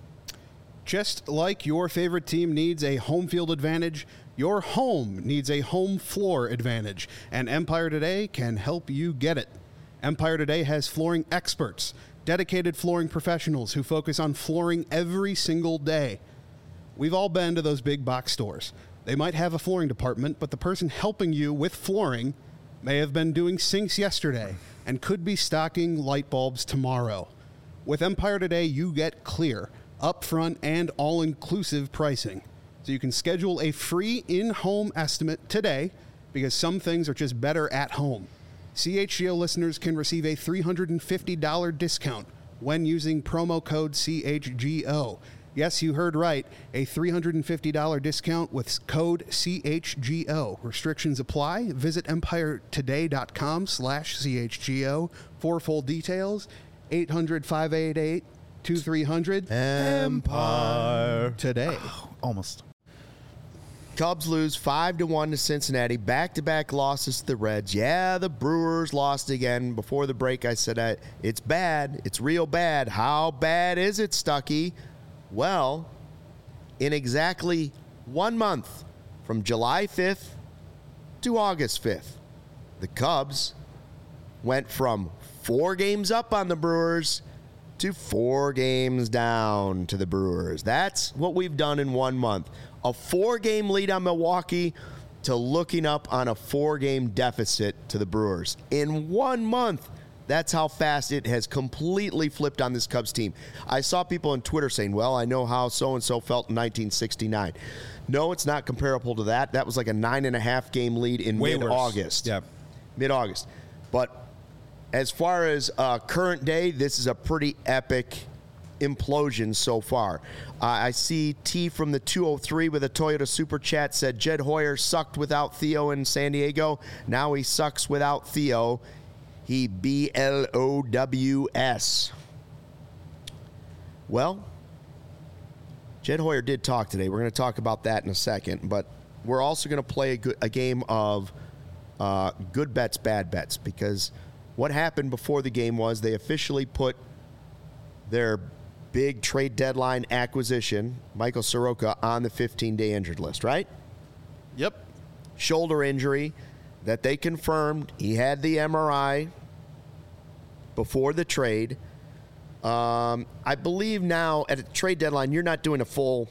Just like your favorite team needs a home field advantage, your home needs a home floor advantage, and Empire Today can help you get it. Empire Today has flooring experts, dedicated flooring professionals who focus on flooring every single day. We've all been to those big box stores. They might have a flooring department, but the person helping you with flooring may have been doing sinks yesterday and could be stocking light bulbs tomorrow. With Empire Today, you get clear, upfront, and all-inclusive pricing. So you can schedule a free in-home estimate today because some things are just better at home. C H G O listeners can receive a three hundred fifty dollars discount when using promo code C H G O. Yes, you heard right. A three hundred fifty dollars discount with code C H G O. Restrictions apply. Visit empire today dot com slash C H G O for full details. eight hundred, five eight eight, two three hundred. Empire Today. Oh, almost. Cubs lose five to one to Cincinnati. Back-to-back losses to the Reds. Yeah, the Brewers lost again. Before the break, I said, uh, it's bad. It's real bad. How bad is it, Stuckey? Well, in exactly one month, from July fifth to August fifth, the Cubs went from four games up on the Brewers to four games down to the Brewers. That's what we've done in one month. A four-game lead on Milwaukee to looking up on a four-game deficit to the Brewers. In one month, that's how fast it has completely flipped on this Cubs team. I saw people on Twitter saying, well, I know how so-and-so felt in nineteen sixty-nine. No, it's not comparable to that. That was like a nine-and-a-half game lead in Way mid-August. worse. Yeah. Mid-August. But as far as uh, current day, this is a pretty epic implosion so far. Uh, I see T from the two oh three with a Toyota Super Chat said, Jed Hoyer sucked without Theo in San Diego. Now he sucks without Theo. He B L O W S. Well, Jed Hoyer did talk today. We're going to talk about that in a second. But we're also going to play a, good, a game of uh, good bets, bad bets. Because what happened before the game was they officially put their big trade deadline acquisition, Michael Soroka, on the fifteen-day injured list, right? Yep. Shoulder injury that they confirmed. He had the M R I before the trade. Um, I believe now at a trade deadline, you're not doing a full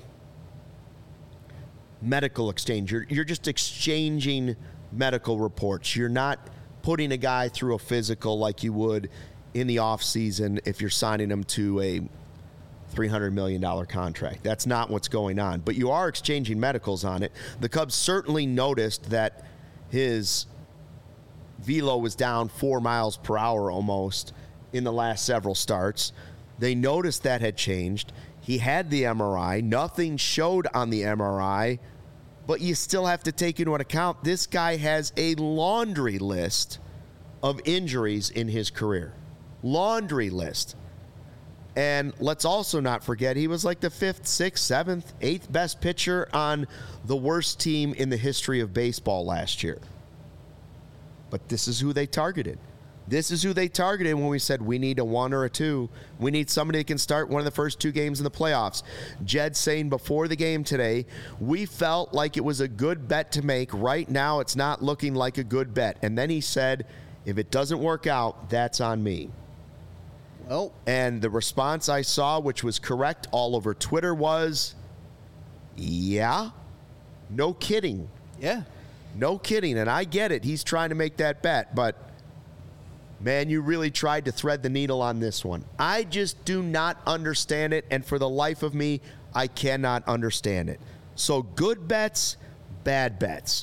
medical exchange. You're, you're just exchanging medical reports. You're not putting a guy through a physical like you would in the offseason if you're signing him to a three hundred million dollars contract. That's not what's going on. But you are exchanging medicals on it. The Cubs certainly noticed that his velo was down four miles per hour almost in the last several starts. They noticed that had changed. He had the M R I. Nothing showed on the M R I. But you still have to take into account this guy has a laundry list of injuries in his career. Laundry list. And let's also not forget, he was like the fifth, sixth, seventh, eighth best pitcher on the worst team in the history of baseball last year. But this is who they targeted. This is who they targeted when we said we need a one or a two. We need somebody that can start one of the first two games in the playoffs. Jed saying before the game today, we felt like it was a good bet to make. Right now, it's not looking like a good bet. And then he said, if it doesn't work out, that's on me. Well, and the response I saw, which was correct all over Twitter, was, yeah, no kidding. yeah. No kidding. And I get it. He's trying to make that bet. But, man, you really tried to thread the needle on this one. I just do not understand it. And for the life of me, I cannot understand it. So good bets, bad bets.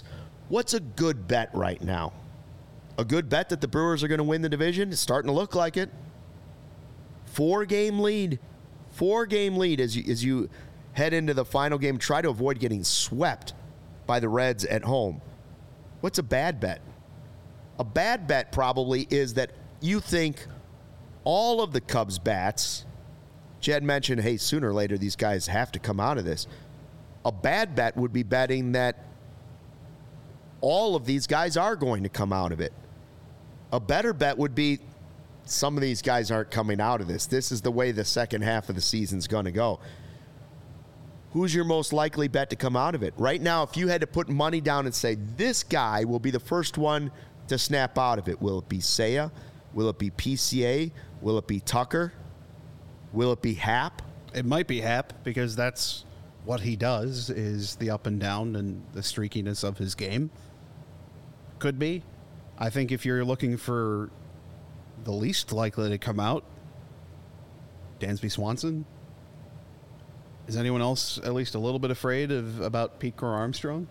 What's a good bet right now? A good bet that the Brewers are going to win the division? It's starting to look like it. Four-game lead. Four-game lead as you, as you head into the final game. Try to avoid getting swept by the Reds at home. What's a bad bet? A bad bet probably is that you think all of the Cubs bats, Jed mentioned, hey, sooner or later these guys have to come out of this. A bad bet would be betting that all of these guys are going to come out of it. A better bet would be some of these guys aren't coming out of this. This is the way the second half of the season's going to go. Who's your most likely bet to come out of it? Right now, if you had to put money down and say, this guy will be the first one to snap out of it, will it be Seiya? Will it be P C A? Will it be Tucker? Will it be Happ? It might be Happ because that's what he does, is the up and down and the streakiness of his game. Could be. I think if you're looking for the least likely to come out, Dansby Swanson. Is anyone else at least a little bit afraid of about Pete Crow Armstrong?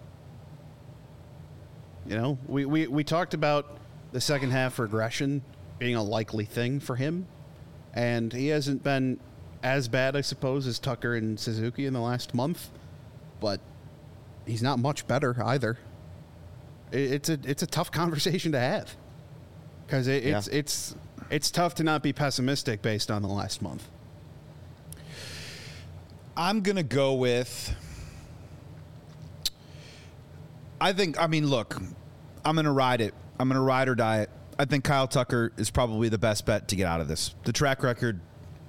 You know, we, we, we talked about the second half regression being a likely thing for him, and he hasn't been as bad, I suppose, as Tucker and Suzuki in the last month, but he's not much better either. It, it's a it's a tough conversation to have because it, it's yeah. it's it's tough to not be pessimistic based on the last month. I'm gonna go with. I think. I mean, look, I'm gonna ride it. I'm gonna ride or die it. I think Kyle Tucker is probably the best bet to get out of this. The track record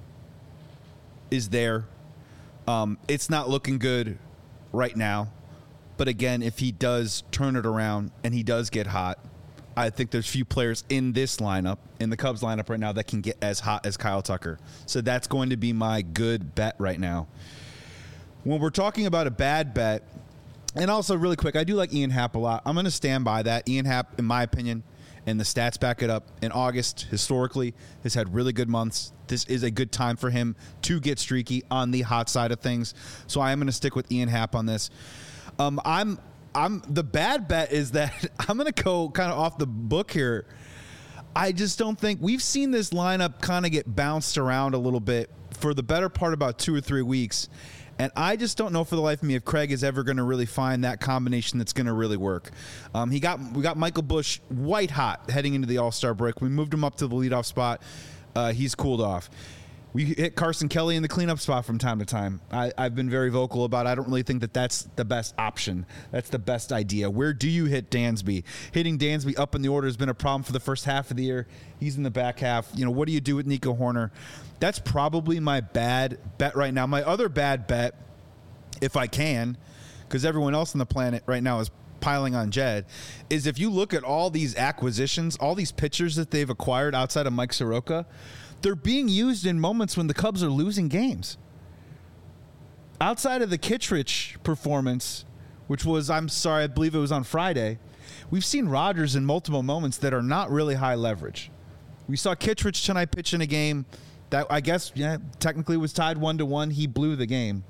is there. Um, it's not looking good right now. But again, if he does turn it around and he does get hot, I think there's few players in this lineup, in the Cubs lineup right now, that can get as hot as Kyle Tucker. So that's going to be my good bet right now. When we're talking about a bad bet, and also really quick, I do like Ian Happ a lot. I'm going to stand by that. Ian Happ, in my opinion, and the stats back it up, in August, historically, has had really good months. This is a good time for him to get streaky on the hot side of things. So I am going to stick with Ian Happ on this. Um, I'm, I'm. The bad bet is that I'm going to go kind of off the book here. I just don't think we've seen this lineup kind of get bounced around a little bit for the better part about two or three weeks, and I just don't know for the life of me if Craig is ever going to really find that combination that's going to really work. Um, he got we got Michael Busch white hot heading into the All-Star break. We moved him up to the leadoff spot. Uh, he's cooled off. We hit Carson Kelly in the cleanup spot from time to time. I, I've been very vocal about it. I don't really think that that's the best option. That's the best idea. Where do you hit Dansby? Hitting Dansby up in the order has been a problem for the first half of the year. He's in the back half. You know, what do you do with Nico Horner? That's probably my bad bet right now. My other bad bet, if I can, because everyone else on the planet right now is piling on Jed, is if you look at all these acquisitions, all these pitchers that they've acquired outside of Mike Soroka, they're being used in moments when the Cubs are losing games. Outside of the Kittredge performance, which was, I'm sorry, I believe it was on Friday, we've seen Rodgers in multiple moments that are not really high leverage. We saw Kittredge tonight pitch in a game that I guess, yeah, technically was tied one to one. He blew the game.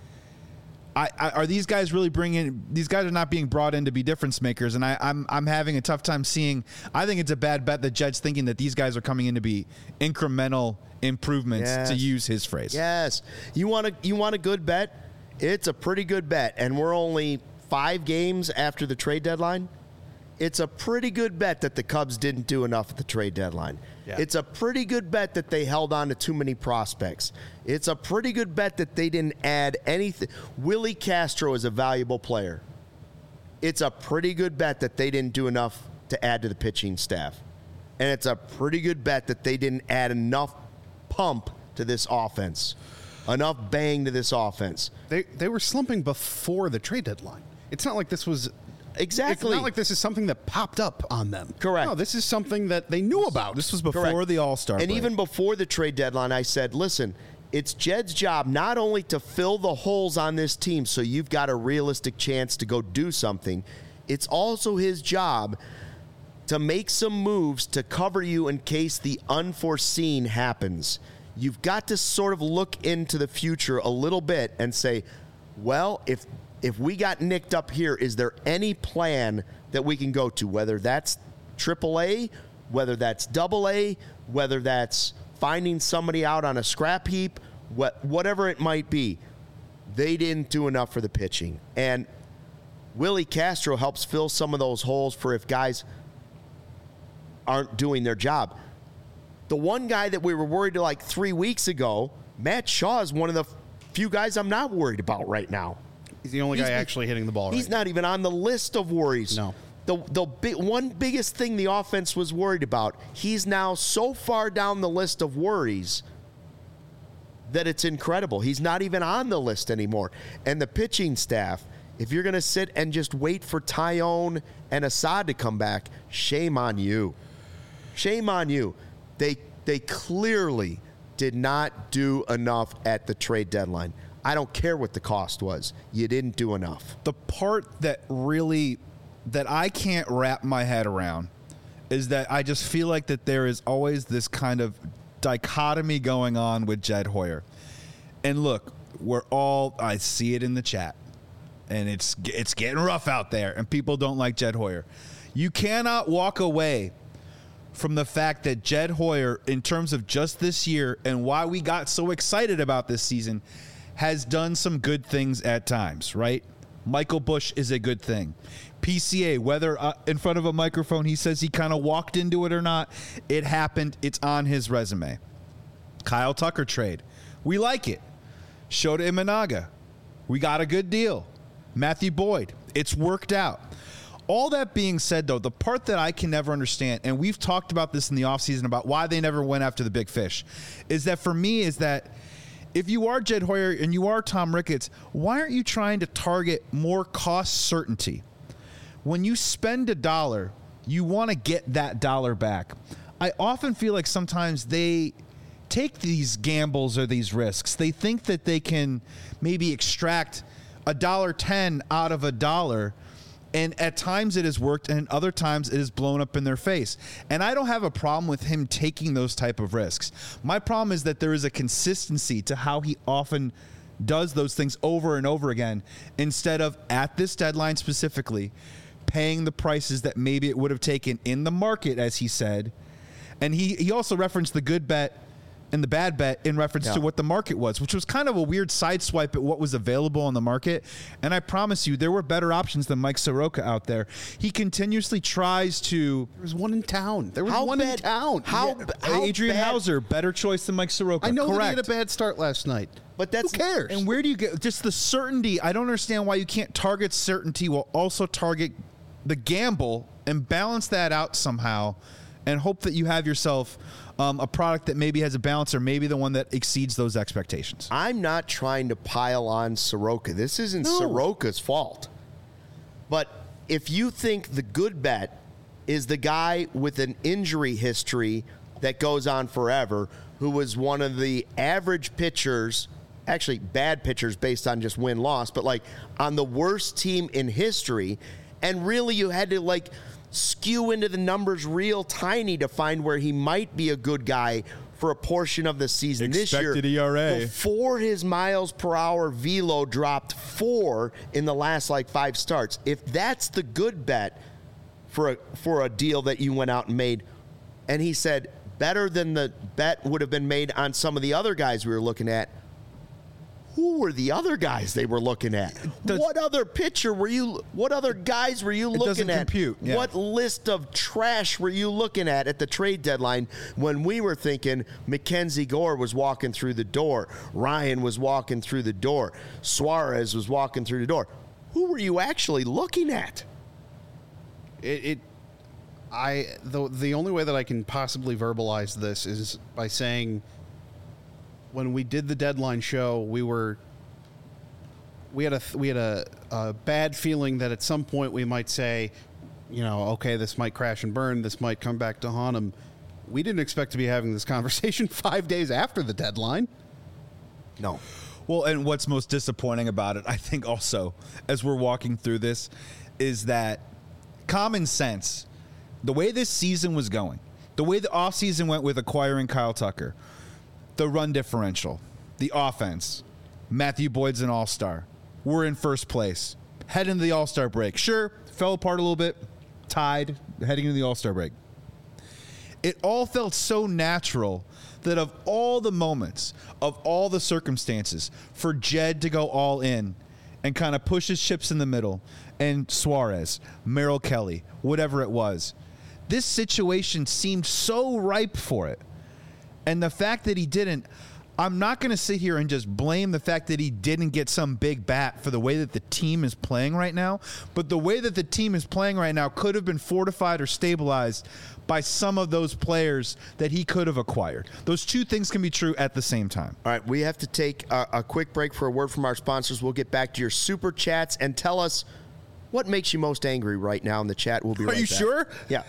I, I, are these guys really bringing? These guys are not being brought in to be difference makers, and I, I'm I'm having a tough time seeing. I think it's a bad bet that Jed's thinking that these guys are coming in to be incremental improvements, yes. to use his phrase. Yes, you want a you want a good bet? It's a pretty good bet, and we're only five games after the trade deadline. It's a pretty good bet that the Cubs didn't do enough at the trade deadline. Yeah. It's a pretty good bet that they held on to too many prospects. It's a pretty good bet that they didn't add anything. Willie Castro is a valuable player. It's a pretty good bet that they didn't do enough to add to the pitching staff. And it's a pretty good bet that they didn't add enough pump to this offense, enough bang to this offense. They they were slumping before the trade deadline. It's not like this was... Exactly. It's not like this is something that popped up on them. Correct. No, this is something that they knew about. This was before Correct. the All-Star And break. even before the trade deadline, I said, listen, it's Jed's job not only to fill the holes on this team so you've got a realistic chance to go do something, it's also his job to make some moves to cover you in case the unforeseen happens. You've got to sort of look into the future a little bit and say, well, if if we got nicked up here, is there any plan that we can go to, whether that's triple A, whether that's double A, whether that's finding somebody out on a scrap heap, what, whatever it might be. They didn't do enough for the pitching. And Willie Castro helps fill some of those holes for if guys aren't doing their job. The one guy that we were worried to like three weeks ago, Matt Shaw, is one of the few guys I'm not worried about right now. He's the only He's, guy actually hitting the ball He's right. not even on the list of worries. No. The the big, one biggest thing the offense was worried about, he's now so far down the list of worries that it's incredible. He's not even on the list anymore. And the pitching staff, if you're going to sit and just wait for Tyone and Assad to come back, shame on you. Shame on you. They they clearly did not do enough at the trade deadline. I don't care what the cost was. You didn't do enough. The part that really, that I can't wrap my head around is that I just feel like that there is always this kind of dichotomy going on with Jed Hoyer. And look, we're all, I see it in the chat, and it's it's getting rough out there, and people don't like Jed Hoyer. You cannot walk away from the fact that Jed Hoyer, in terms of just this year and why we got so excited about this season, has done some good things at times, right? Michael Busch is a good thing. P C A, whether uh, in front of a microphone he says he kind of walked into it or not, it happened. It's on his resume. Kyle Tucker trade. We like it. Shota Imanaga. We got a good deal. Matthew Boyd. It's worked out. All that being said, though, the part that I can never understand, and we've talked about this in the offseason about why they never went after the big fish, is that for me is that if you are Jed Hoyer and you are Tom Ricketts, why aren't you trying to target more cost certainty? When you spend a dollar, you want to get that dollar back. I often feel like sometimes they take these gambles or these risks. They think that they can maybe extract a dollar ten out of a dollar, and at times it has worked, and other times it has blown up in their face. And I don't have a problem with him taking those type of risks. My problem is that there is a consistency to how he often does those things over and over again, instead of, at this deadline specifically, paying the prices that maybe it would have taken in the market, as he said. And he, he also referenced the good bet and the bad bet in reference yeah. to what the market was, which was kind of a weird sideswipe at what was available on the market. And I promise you, there were better options than Mike Soroka out there. He continuously tries to... There was one in town. There was how one bad, in town. How, yeah. how Adrian bad, Hauser, better choice than Mike Soroka. I know Correct. that he had a bad start last night. But that's, who cares? And where do you get just the certainty? I don't understand why you can't target certainty while also target the gamble and balance that out somehow and hope that you have yourself um, a product that maybe has a balance or maybe the one that exceeds those expectations. I'm not trying to pile on Soroka. This isn't No. Soroka's fault. But if you think the good bet is the guy with an injury history that goes on forever, who was one of the average pitchers, actually bad pitchers based on just win-loss, but like on the worst team in history, and really you had to like skew into the numbers real tiny to find where he might be a good guy for a portion of the season Expected this year. E R A. Before his miles per hour velo dropped four in the last like five starts. If that's the good bet for a for a deal that you went out and made, and he said better than the bet would have been made on some of the other guys we were looking at, who were the other guys they were looking at? Does, what other pitcher were you? What other guys were you it looking doesn't at? compute, yeah. What list of trash were you looking at at the trade deadline when we were thinking Mackenzie Gore was walking through the door, Ryan was walking through the door, Suarez was walking through the door? Who were you actually looking at? It, it I the the only way that I can possibly verbalize this is by saying, when we did the deadline show, we were we had a we had a, a bad feeling that at some point we might say, you know, okay, this might crash and burn, this might come back to haunt him. We didn't expect to be having this conversation five days after the deadline. No. Well, and what's most disappointing about it, I think also, as we're walking through this, is that common sense, the way this season was going, the way the offseason went with acquiring Kyle Tucker, the run differential, the offense, Matthew Boyd's an all-star. We're in first place. Head into the all-star break. Sure, fell apart a little bit. tied heading into the All-Star break. It all felt so natural that of all the moments, of all the circumstances, for Jed to go all in and kind of push his chips in the middle, and Suarez, Merrill Kelly, whatever it was, this situation seemed so ripe for it. And the fact that he didn't, I'm not going to sit here and just blame the fact that he didn't get some big bat for the way that the team is playing right now. But the way that the team is playing right now could have been fortified or stabilized by some of those players that he could have acquired. Those two things can be true at the same time. All right, we have to take a, a quick break for a word from our sponsors. We'll get back to your super chats and tell us what makes you most angry right now in the chat. We'll be right back. Are you back. sure? Yeah.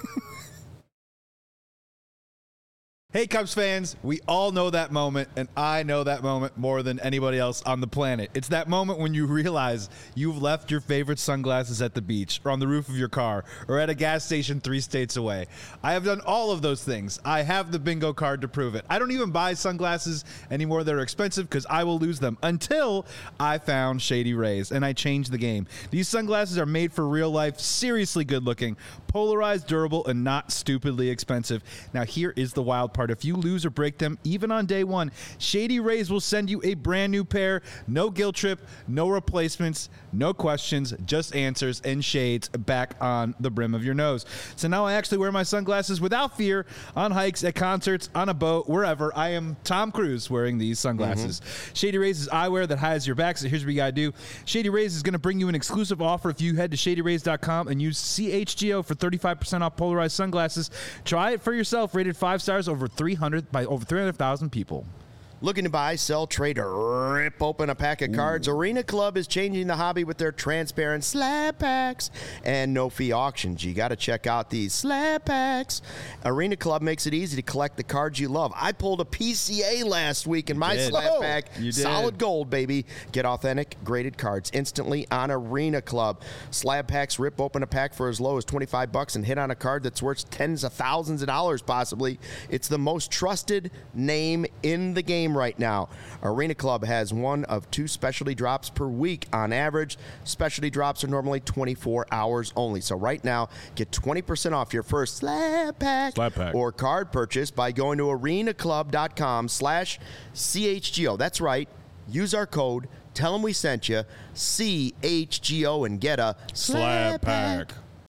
Hey, Cubs fans, we all know that moment, and I know that moment more than anybody else on the planet. It's that moment when you realize you've left your favorite sunglasses at the beach or on the roof of your car or at a gas station three states away. I have done all of those things. I have the bingo card to prove it. I don't even buy sunglasses anymore that are expensive because I will lose them until I found Shady Rays, and I changed the game. These sunglasses are made for real life, seriously good looking, polarized, durable, and not stupidly expensive. Now, here is the wild part. If you lose or break them, even on day one, Shady Rays will send you a brand new pair. No guilt trip, no replacements, no questions, just answers and shades back on the brim of your nose. So now I actually wear my sunglasses without fear on hikes, at concerts, on a boat, wherever. I am Tom Cruise wearing these sunglasses. Mm-hmm. Shady Rays is eyewear that hides your back, so here's what you gotta do. Shady Rays is gonna bring you an exclusive offer if you head to shady rays dot com and use C H G O for thirty-five percent off polarized sunglasses. Try it for yourself. Rated five stars over three hundred by over three hundred thousand people. Looking to buy, sell, trade, or rip open a pack of cards? Ooh. Arena Club is changing the hobby with their transparent slab packs and no-fee auctions. You got to check out these slab packs. Arena Club makes it easy to collect the cards you love. I pulled a P C A last week in my did. slab Whoa. pack. You did. Solid gold, baby. Get authentic, graded cards instantly on Arena Club. Slab packs rip open a pack for as low as twenty-five bucks and hit on a card that's worth tens of thousands of dollars possibly. It's the most trusted name in the game right now. Arena Club has one of two specialty drops per week on average. Specialty drops are normally twenty-four hours only. So right now, get twenty percent off your first slab pack, slab pack. or card purchase by going to arena club dot com slash C H G O. That's right. Use our code. Tell them we sent you. C H G O and get a slab pack.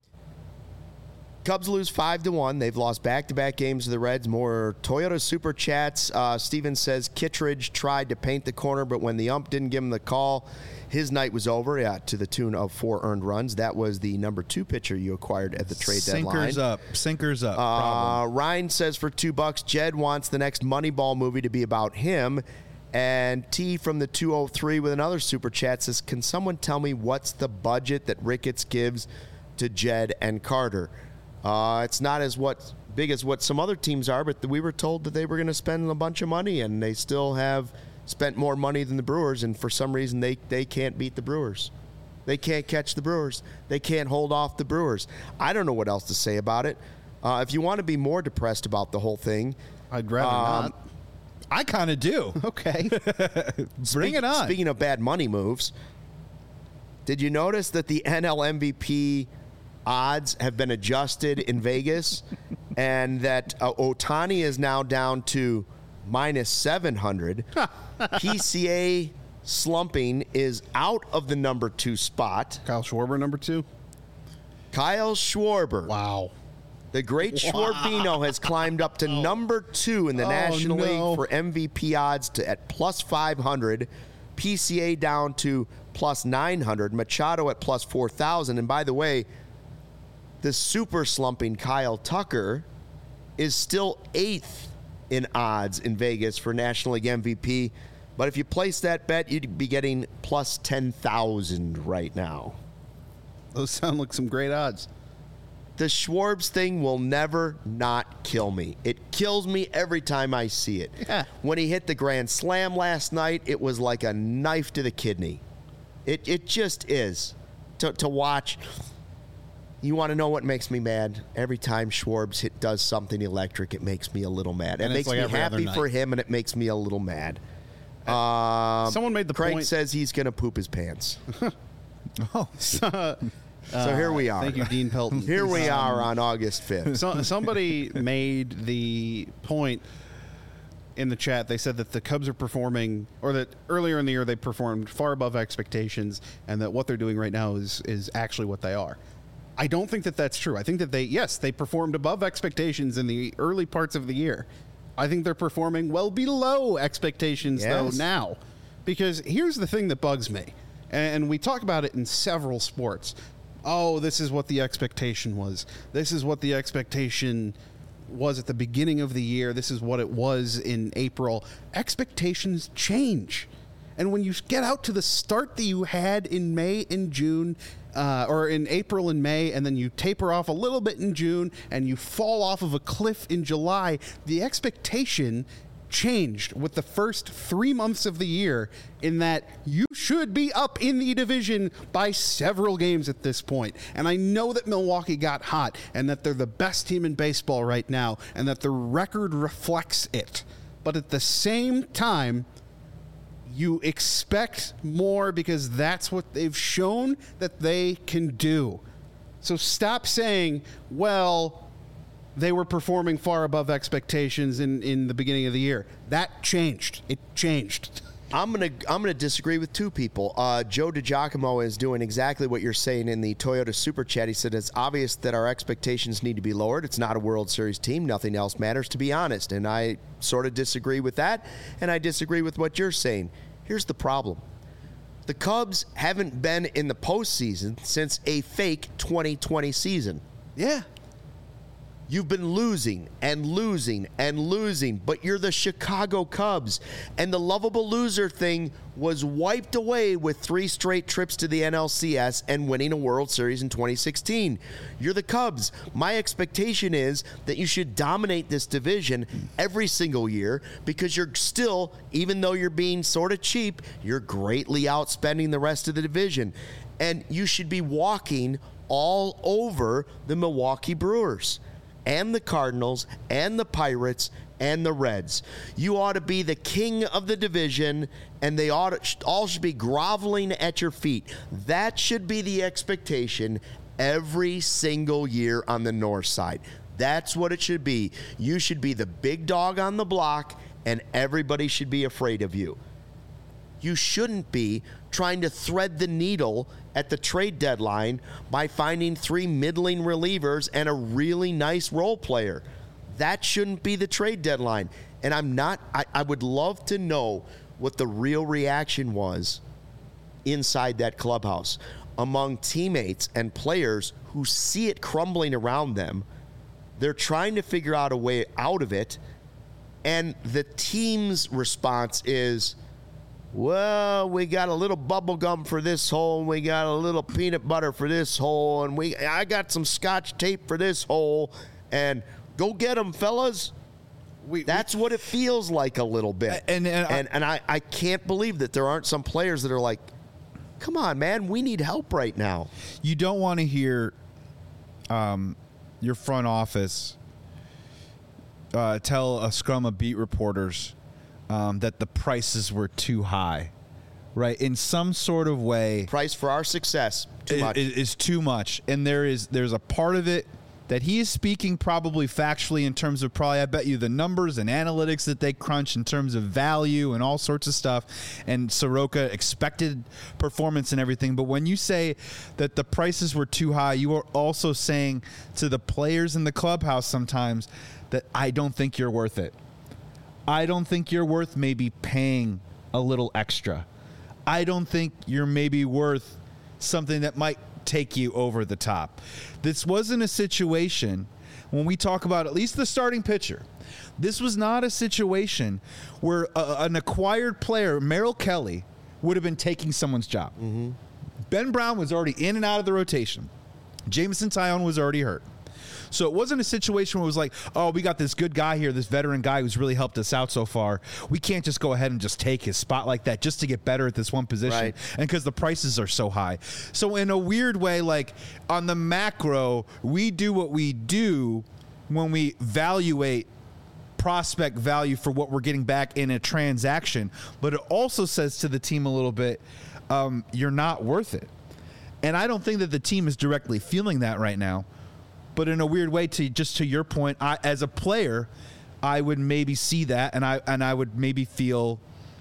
Cubs lose five to one. They've lost back-to-back games to the Reds. More Toyota Super Chats. Uh, Steven says Kittredge tried to paint the corner, but when the ump didn't give him the call, his night was over. Yeah, to the tune of four earned runs. That was the number two pitcher you acquired at the trade Sinkers deadline. Sinkers up. Sinkers up. Uh, Ryan says for two bucks, Jed wants the next Moneyball movie to be about him. And T from the two oh three with another Super Chat says, can someone tell me what's the budget that Ricketts gives to Jed and Carter? Uh, it's not as what big as what some other teams are, but we were told that they were going to spend a bunch of money, and they still have spent more money than the Brewers, and for some reason they, they can't beat the Brewers. They can't catch the Brewers. They can't hold off the Brewers. I don't know what else to say about it. Uh, if you want to be more depressed about the whole thing, I'd rather um, not. I kind of do. Okay. Bring Speak, it on. Speaking of bad money moves, did you notice that the N L M V P odds have been adjusted in Vegas and that uh, Ohtani is now down to minus seven hundred? P C A slumping is out of the number two spot. Kyle Schwarber, number two. Kyle Schwarber. Wow. The great Wow. Schwarbino has climbed up to number two in the Oh, National no. League for M V P odds to at plus five hundred. P C A down to plus nine hundred. Machado at plus four thousand. And by the way, the super slumping Kyle Tucker is still eighth in odds in Vegas for National League M V P. But if you place that bet, you'd be getting plus ten thousand right now. Those sound like some great odds. The Schwarbs thing will never not kill me. It kills me every time I see it. Yeah. When he hit the grand slam last night, it was like a knife to the kidney. It it just is. To, to watch, you want to know what makes me mad? Every time Schwarbs hit, does something electric, it makes me a little mad. It And it's makes like me every other happy night. for him, and it makes me a little mad. Um, Someone made the Craig point- says he's going to poop his pants. Oh. So here we are. Thank you, Dean Pelton. Here we are on August fifth. So, somebody made the point in the chat. They said that the Cubs are performing, or that earlier in the year they performed far above expectations, and that what they're doing right now is is actually what they are. I don't think that that's true. I think that they, yes, they performed above expectations in the early parts of the year. I think they're performing well below expectations, Yes. though, now. Because here's the thing that bugs me, and we talk about it in several sports. Oh, this is what the expectation was. This is what the expectation was at the beginning of the year. This is what it was in April. Expectations change. And when you get out to the start that you had in May and June, uh, or in April and May, and then you taper off a little bit in June, and you fall off of a cliff in July, the expectation changed with the first three months of the year, in that you should be up in the division by several games at this point. And I know that Milwaukee got hot, and that they're the best team in baseball right now, and that the record reflects it. But at the same time, you expect more, because that's what they've shown that they can do. So stop saying, well, they were performing far above expectations in, in the beginning of the year. That changed. It changed. I'm gonna I'm gonna disagree with two people. Uh, Joe DiGiacomo is doing exactly what you're saying in the Toyota Super Chat. He said it's obvious that our expectations need to be lowered. It's not a World Series team. Nothing else matters, to be honest. And I sort of disagree with that, and I disagree with what you're saying. Here's the problem. The Cubs haven't been in the postseason since a fake twenty twenty season. Yeah. You've been losing and losing and losing, but you're the Chicago Cubs. And the lovable loser thing was wiped away with three straight trips to the N L C S and winning a World Series in twenty sixteen. You're the Cubs. My expectation is that you should dominate this division every single year, because you're still, even though you're being sort of cheap, you're greatly outspending the rest of the division. And you should be walking all over the Milwaukee Brewers and the Cardinals, and the Pirates, and the Reds. You ought to be the king of the division, and they ought to, all should be groveling at your feet. That should be the expectation every single year on the north side. That's what it should be. You should be the big dog on the block, and everybody should be afraid of you. You shouldn't be trying to thread the needle at the trade deadline by finding three middling relievers and a really nice role player. That shouldn't be the trade deadline. And I'm not, I, I would love to know what the real reaction was inside that clubhouse among teammates and players who see it crumbling around them. They're trying to figure out a way out of it. And the team's response is, well, we got a little bubble gum for this hole, and we got a little peanut butter for this hole, and we I got some scotch tape for this hole, and go get them, fellas. We, That's we, what it feels like a little bit. And and, and, and I, I can't believe that there aren't some players that are like, come on, man, we need help right now. You don't want to hear um, your front office uh, tell a scrum of beat reporters Um, that the prices were too high, right? In some sort of way, price for our success too is, much. is too much, and there is there's a part of it that he is speaking probably factually in terms of probably I bet you the numbers and analytics that they crunch in terms of value and all sorts of stuff, and Soroka expected performance and everything. But when you say that the prices were too high, you are also saying to the players in the clubhouse sometimes that I don't think you're worth it. I don't think you're worth maybe paying a little extra. I don't think you're maybe worth something that might take you over the top. This wasn't a situation, when we talk about at least the starting pitcher, this was not a situation where a, an acquired player, Merrill Kelly, would have been taking someone's job. Mm-hmm. Ben Brown was already in and out of the rotation. Jameson Taillon was already hurt. So it wasn't a situation where it was like, oh, we got this good guy here, this veteran guy who's really helped us out so far. We can't just go ahead and just take his spot like that just to get better at this one position. Right. And because the prices are so high. So in a weird way, like on the macro, we do what we do when we evaluate prospect value for what we're getting back in a transaction. But it also says to the team a little bit, um, you're not worth it. And I don't think that the team is directly feeling that right now. But in a weird way, to just to your point, I, as a player, I would maybe see that, and I and I would maybe feel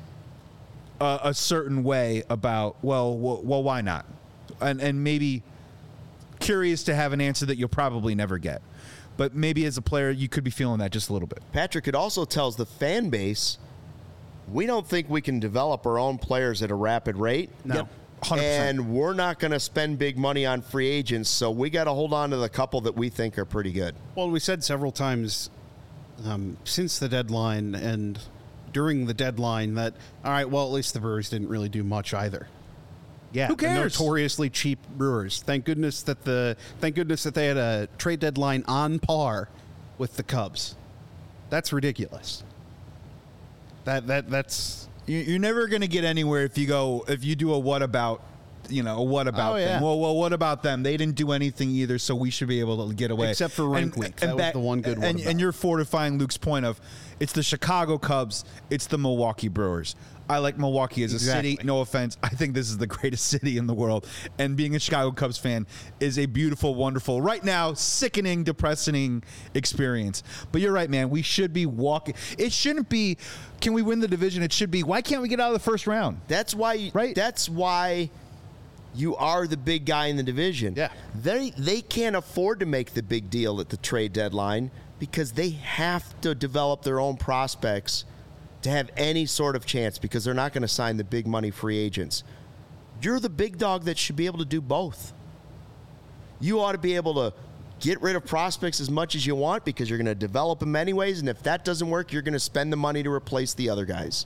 a, a certain way about, well, well, well, why not? And and maybe curious to have an answer that you'll probably never get. But maybe as a player, you could be feeling that just a little bit. Patrick, it also tells the fan base, we don't think we can develop our own players at a rapid rate. No. Yep. one hundred percent. And we're not going to spend big money on free agents, so we got to hold on to the couple that we think are pretty good. Well, we said several times um, since the deadline and during the deadline that, all right, well, at least the Brewers didn't really do much either. Yeah, Who cares? The notoriously cheap Brewers. Thank goodness that the thank goodness that they had a trade deadline on par with the Cubs. That's ridiculous. That that that's You- You're never going to get anywhere if you go if you do a what about, you know, a what about Oh, yeah. them. Well, well, what about them? They didn't do anything either, so we should be able to get away. Except for Rank Week. That was the one good what and, about. and you're fortifying Luke's point of it's the Chicago Cubs, it's the Milwaukee Brewers. I like Milwaukee as a Exactly. city. No offense. I think this is the greatest city in the world. And being a Chicago Cubs fan is a beautiful, wonderful, right now, sickening, depressing experience. But you're right, man. We should be walking. It shouldn't be, can we win the division? It should be, why can't we get out of the first round? That's why. Right. That's why you are the big guy in the division. Yeah. They they can't afford to make the big deal at the trade deadline because they have to develop their own prospects to have any sort of chance because they're not going to sign the big money free agents. You're the big dog that should be able to do both. You ought to be able to get rid of prospects as much as you want because you're going to develop them anyways, and if that doesn't work, you're going to spend the money to replace the other guys.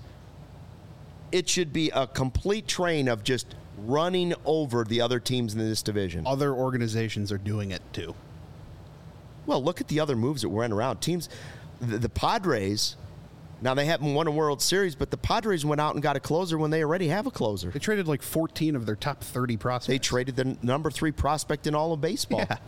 It should be a complete train of just running over the other teams in this division. other organizations are doing it too. Well, look at the other moves that went around. Teams, the, the Padres, now they haven't won a World Series, but the Padres went out and got a closer when they already have a closer. They traded like fourteen of their top thirty prospects. They traded the number three prospect in all of baseball. Yeah.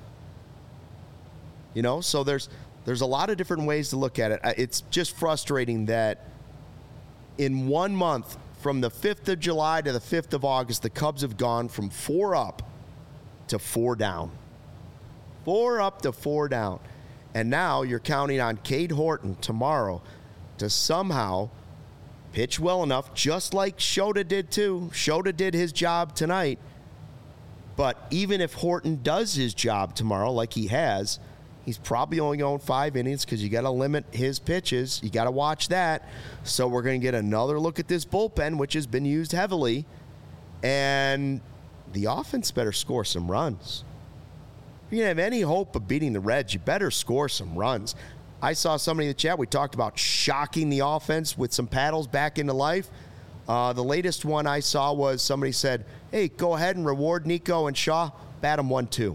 You know, so there's there's a lot of different ways to look at it. It's just frustrating that in one month, from the fifth of July to the fifth of August, the Cubs have gone from four up to four down. Four up to four down. And now you're counting on Cade Horton tomorrow to somehow pitch well enough, just like Shota did too. Shota did his job tonight. But even if Horton does his job tomorrow, like he has, he's probably only going five innings because you got to limit his pitches. You got to watch that. So we're going to get another look at this bullpen, which has been used heavily. And the offense better score some runs. If you have any hope of beating the Reds, you better score some runs. I saw somebody in the chat, we talked about shocking the offense with some paddles back into life. Uh, the latest one I saw was somebody said, hey, go ahead and reward Nico and Shaw, bat them one two.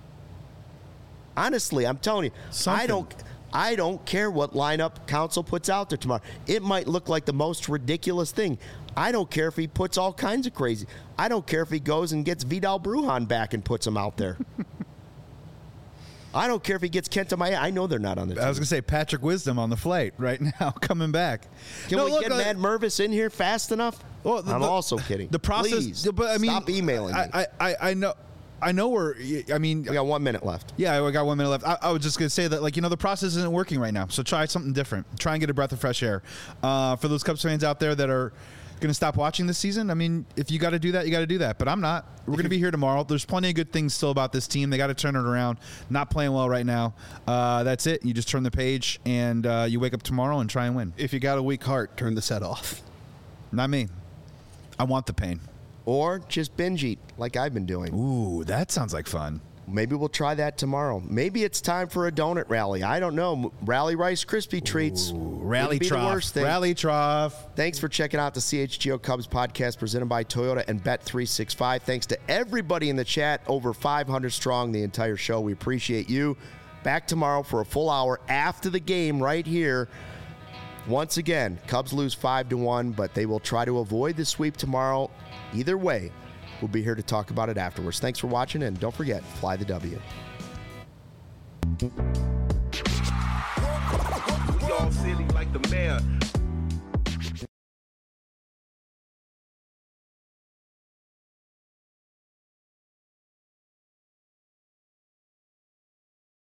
Honestly, I'm telling you, Something. I don't I don't care what lineup Council puts out there tomorrow. It might look like the most ridiculous thing. I don't care if he puts all kinds of crazy. I don't care if he goes and gets Vidal Brujan back and puts him out there. I don't care if he gets Kenta Maeda. I know they're not on the team. I was going to say Patrick Wisdom on the flight right now, coming back. Can No, we look, get uh, Matt Mervis in here fast enough? Well, the- I'm the- also kidding. The process, Please, but I mean, stop emailing me. I, I, I, I know, I know we're. I mean, we got one minute left. yeah, I got one minute left. I, I was just going to say that, like, you know, the process isn't working right now. So try something different. Try and get a breath of fresh air. Uh, for those Cubs fans out there that are going to stop watching this season, I mean, if you got to do that, you got to do that. But I'm not. We're going to be here tomorrow. There's plenty of good things still about this team. They got to turn it around. Not playing well right now. Uh, that's it. You just turn the page and uh, you wake up tomorrow and try and win. If you got a weak heart, turn the set off. Not me. I want the pain. Or just binge eat like I've been doing. Ooh, that sounds like fun. Maybe we'll try that tomorrow. Maybe it's time for a donut rally. I don't know. Rally Rice Krispie treats. Rally Wouldn't be the trough. worst thing. Rally trough. Thanks for checking out the C H G O Cubs podcast presented by Toyota and Bet three sixty-five. Thanks to everybody in the chat, over five hundred strong the entire show. We appreciate you. Back tomorrow for a full hour after the game right here. Once again, Cubs lose five to one, but they will try to avoid the sweep tomorrow. Either way, we'll be here to talk about it afterwards. Thanks for watching, and don't forget, fly the W. We all silly like the mayor.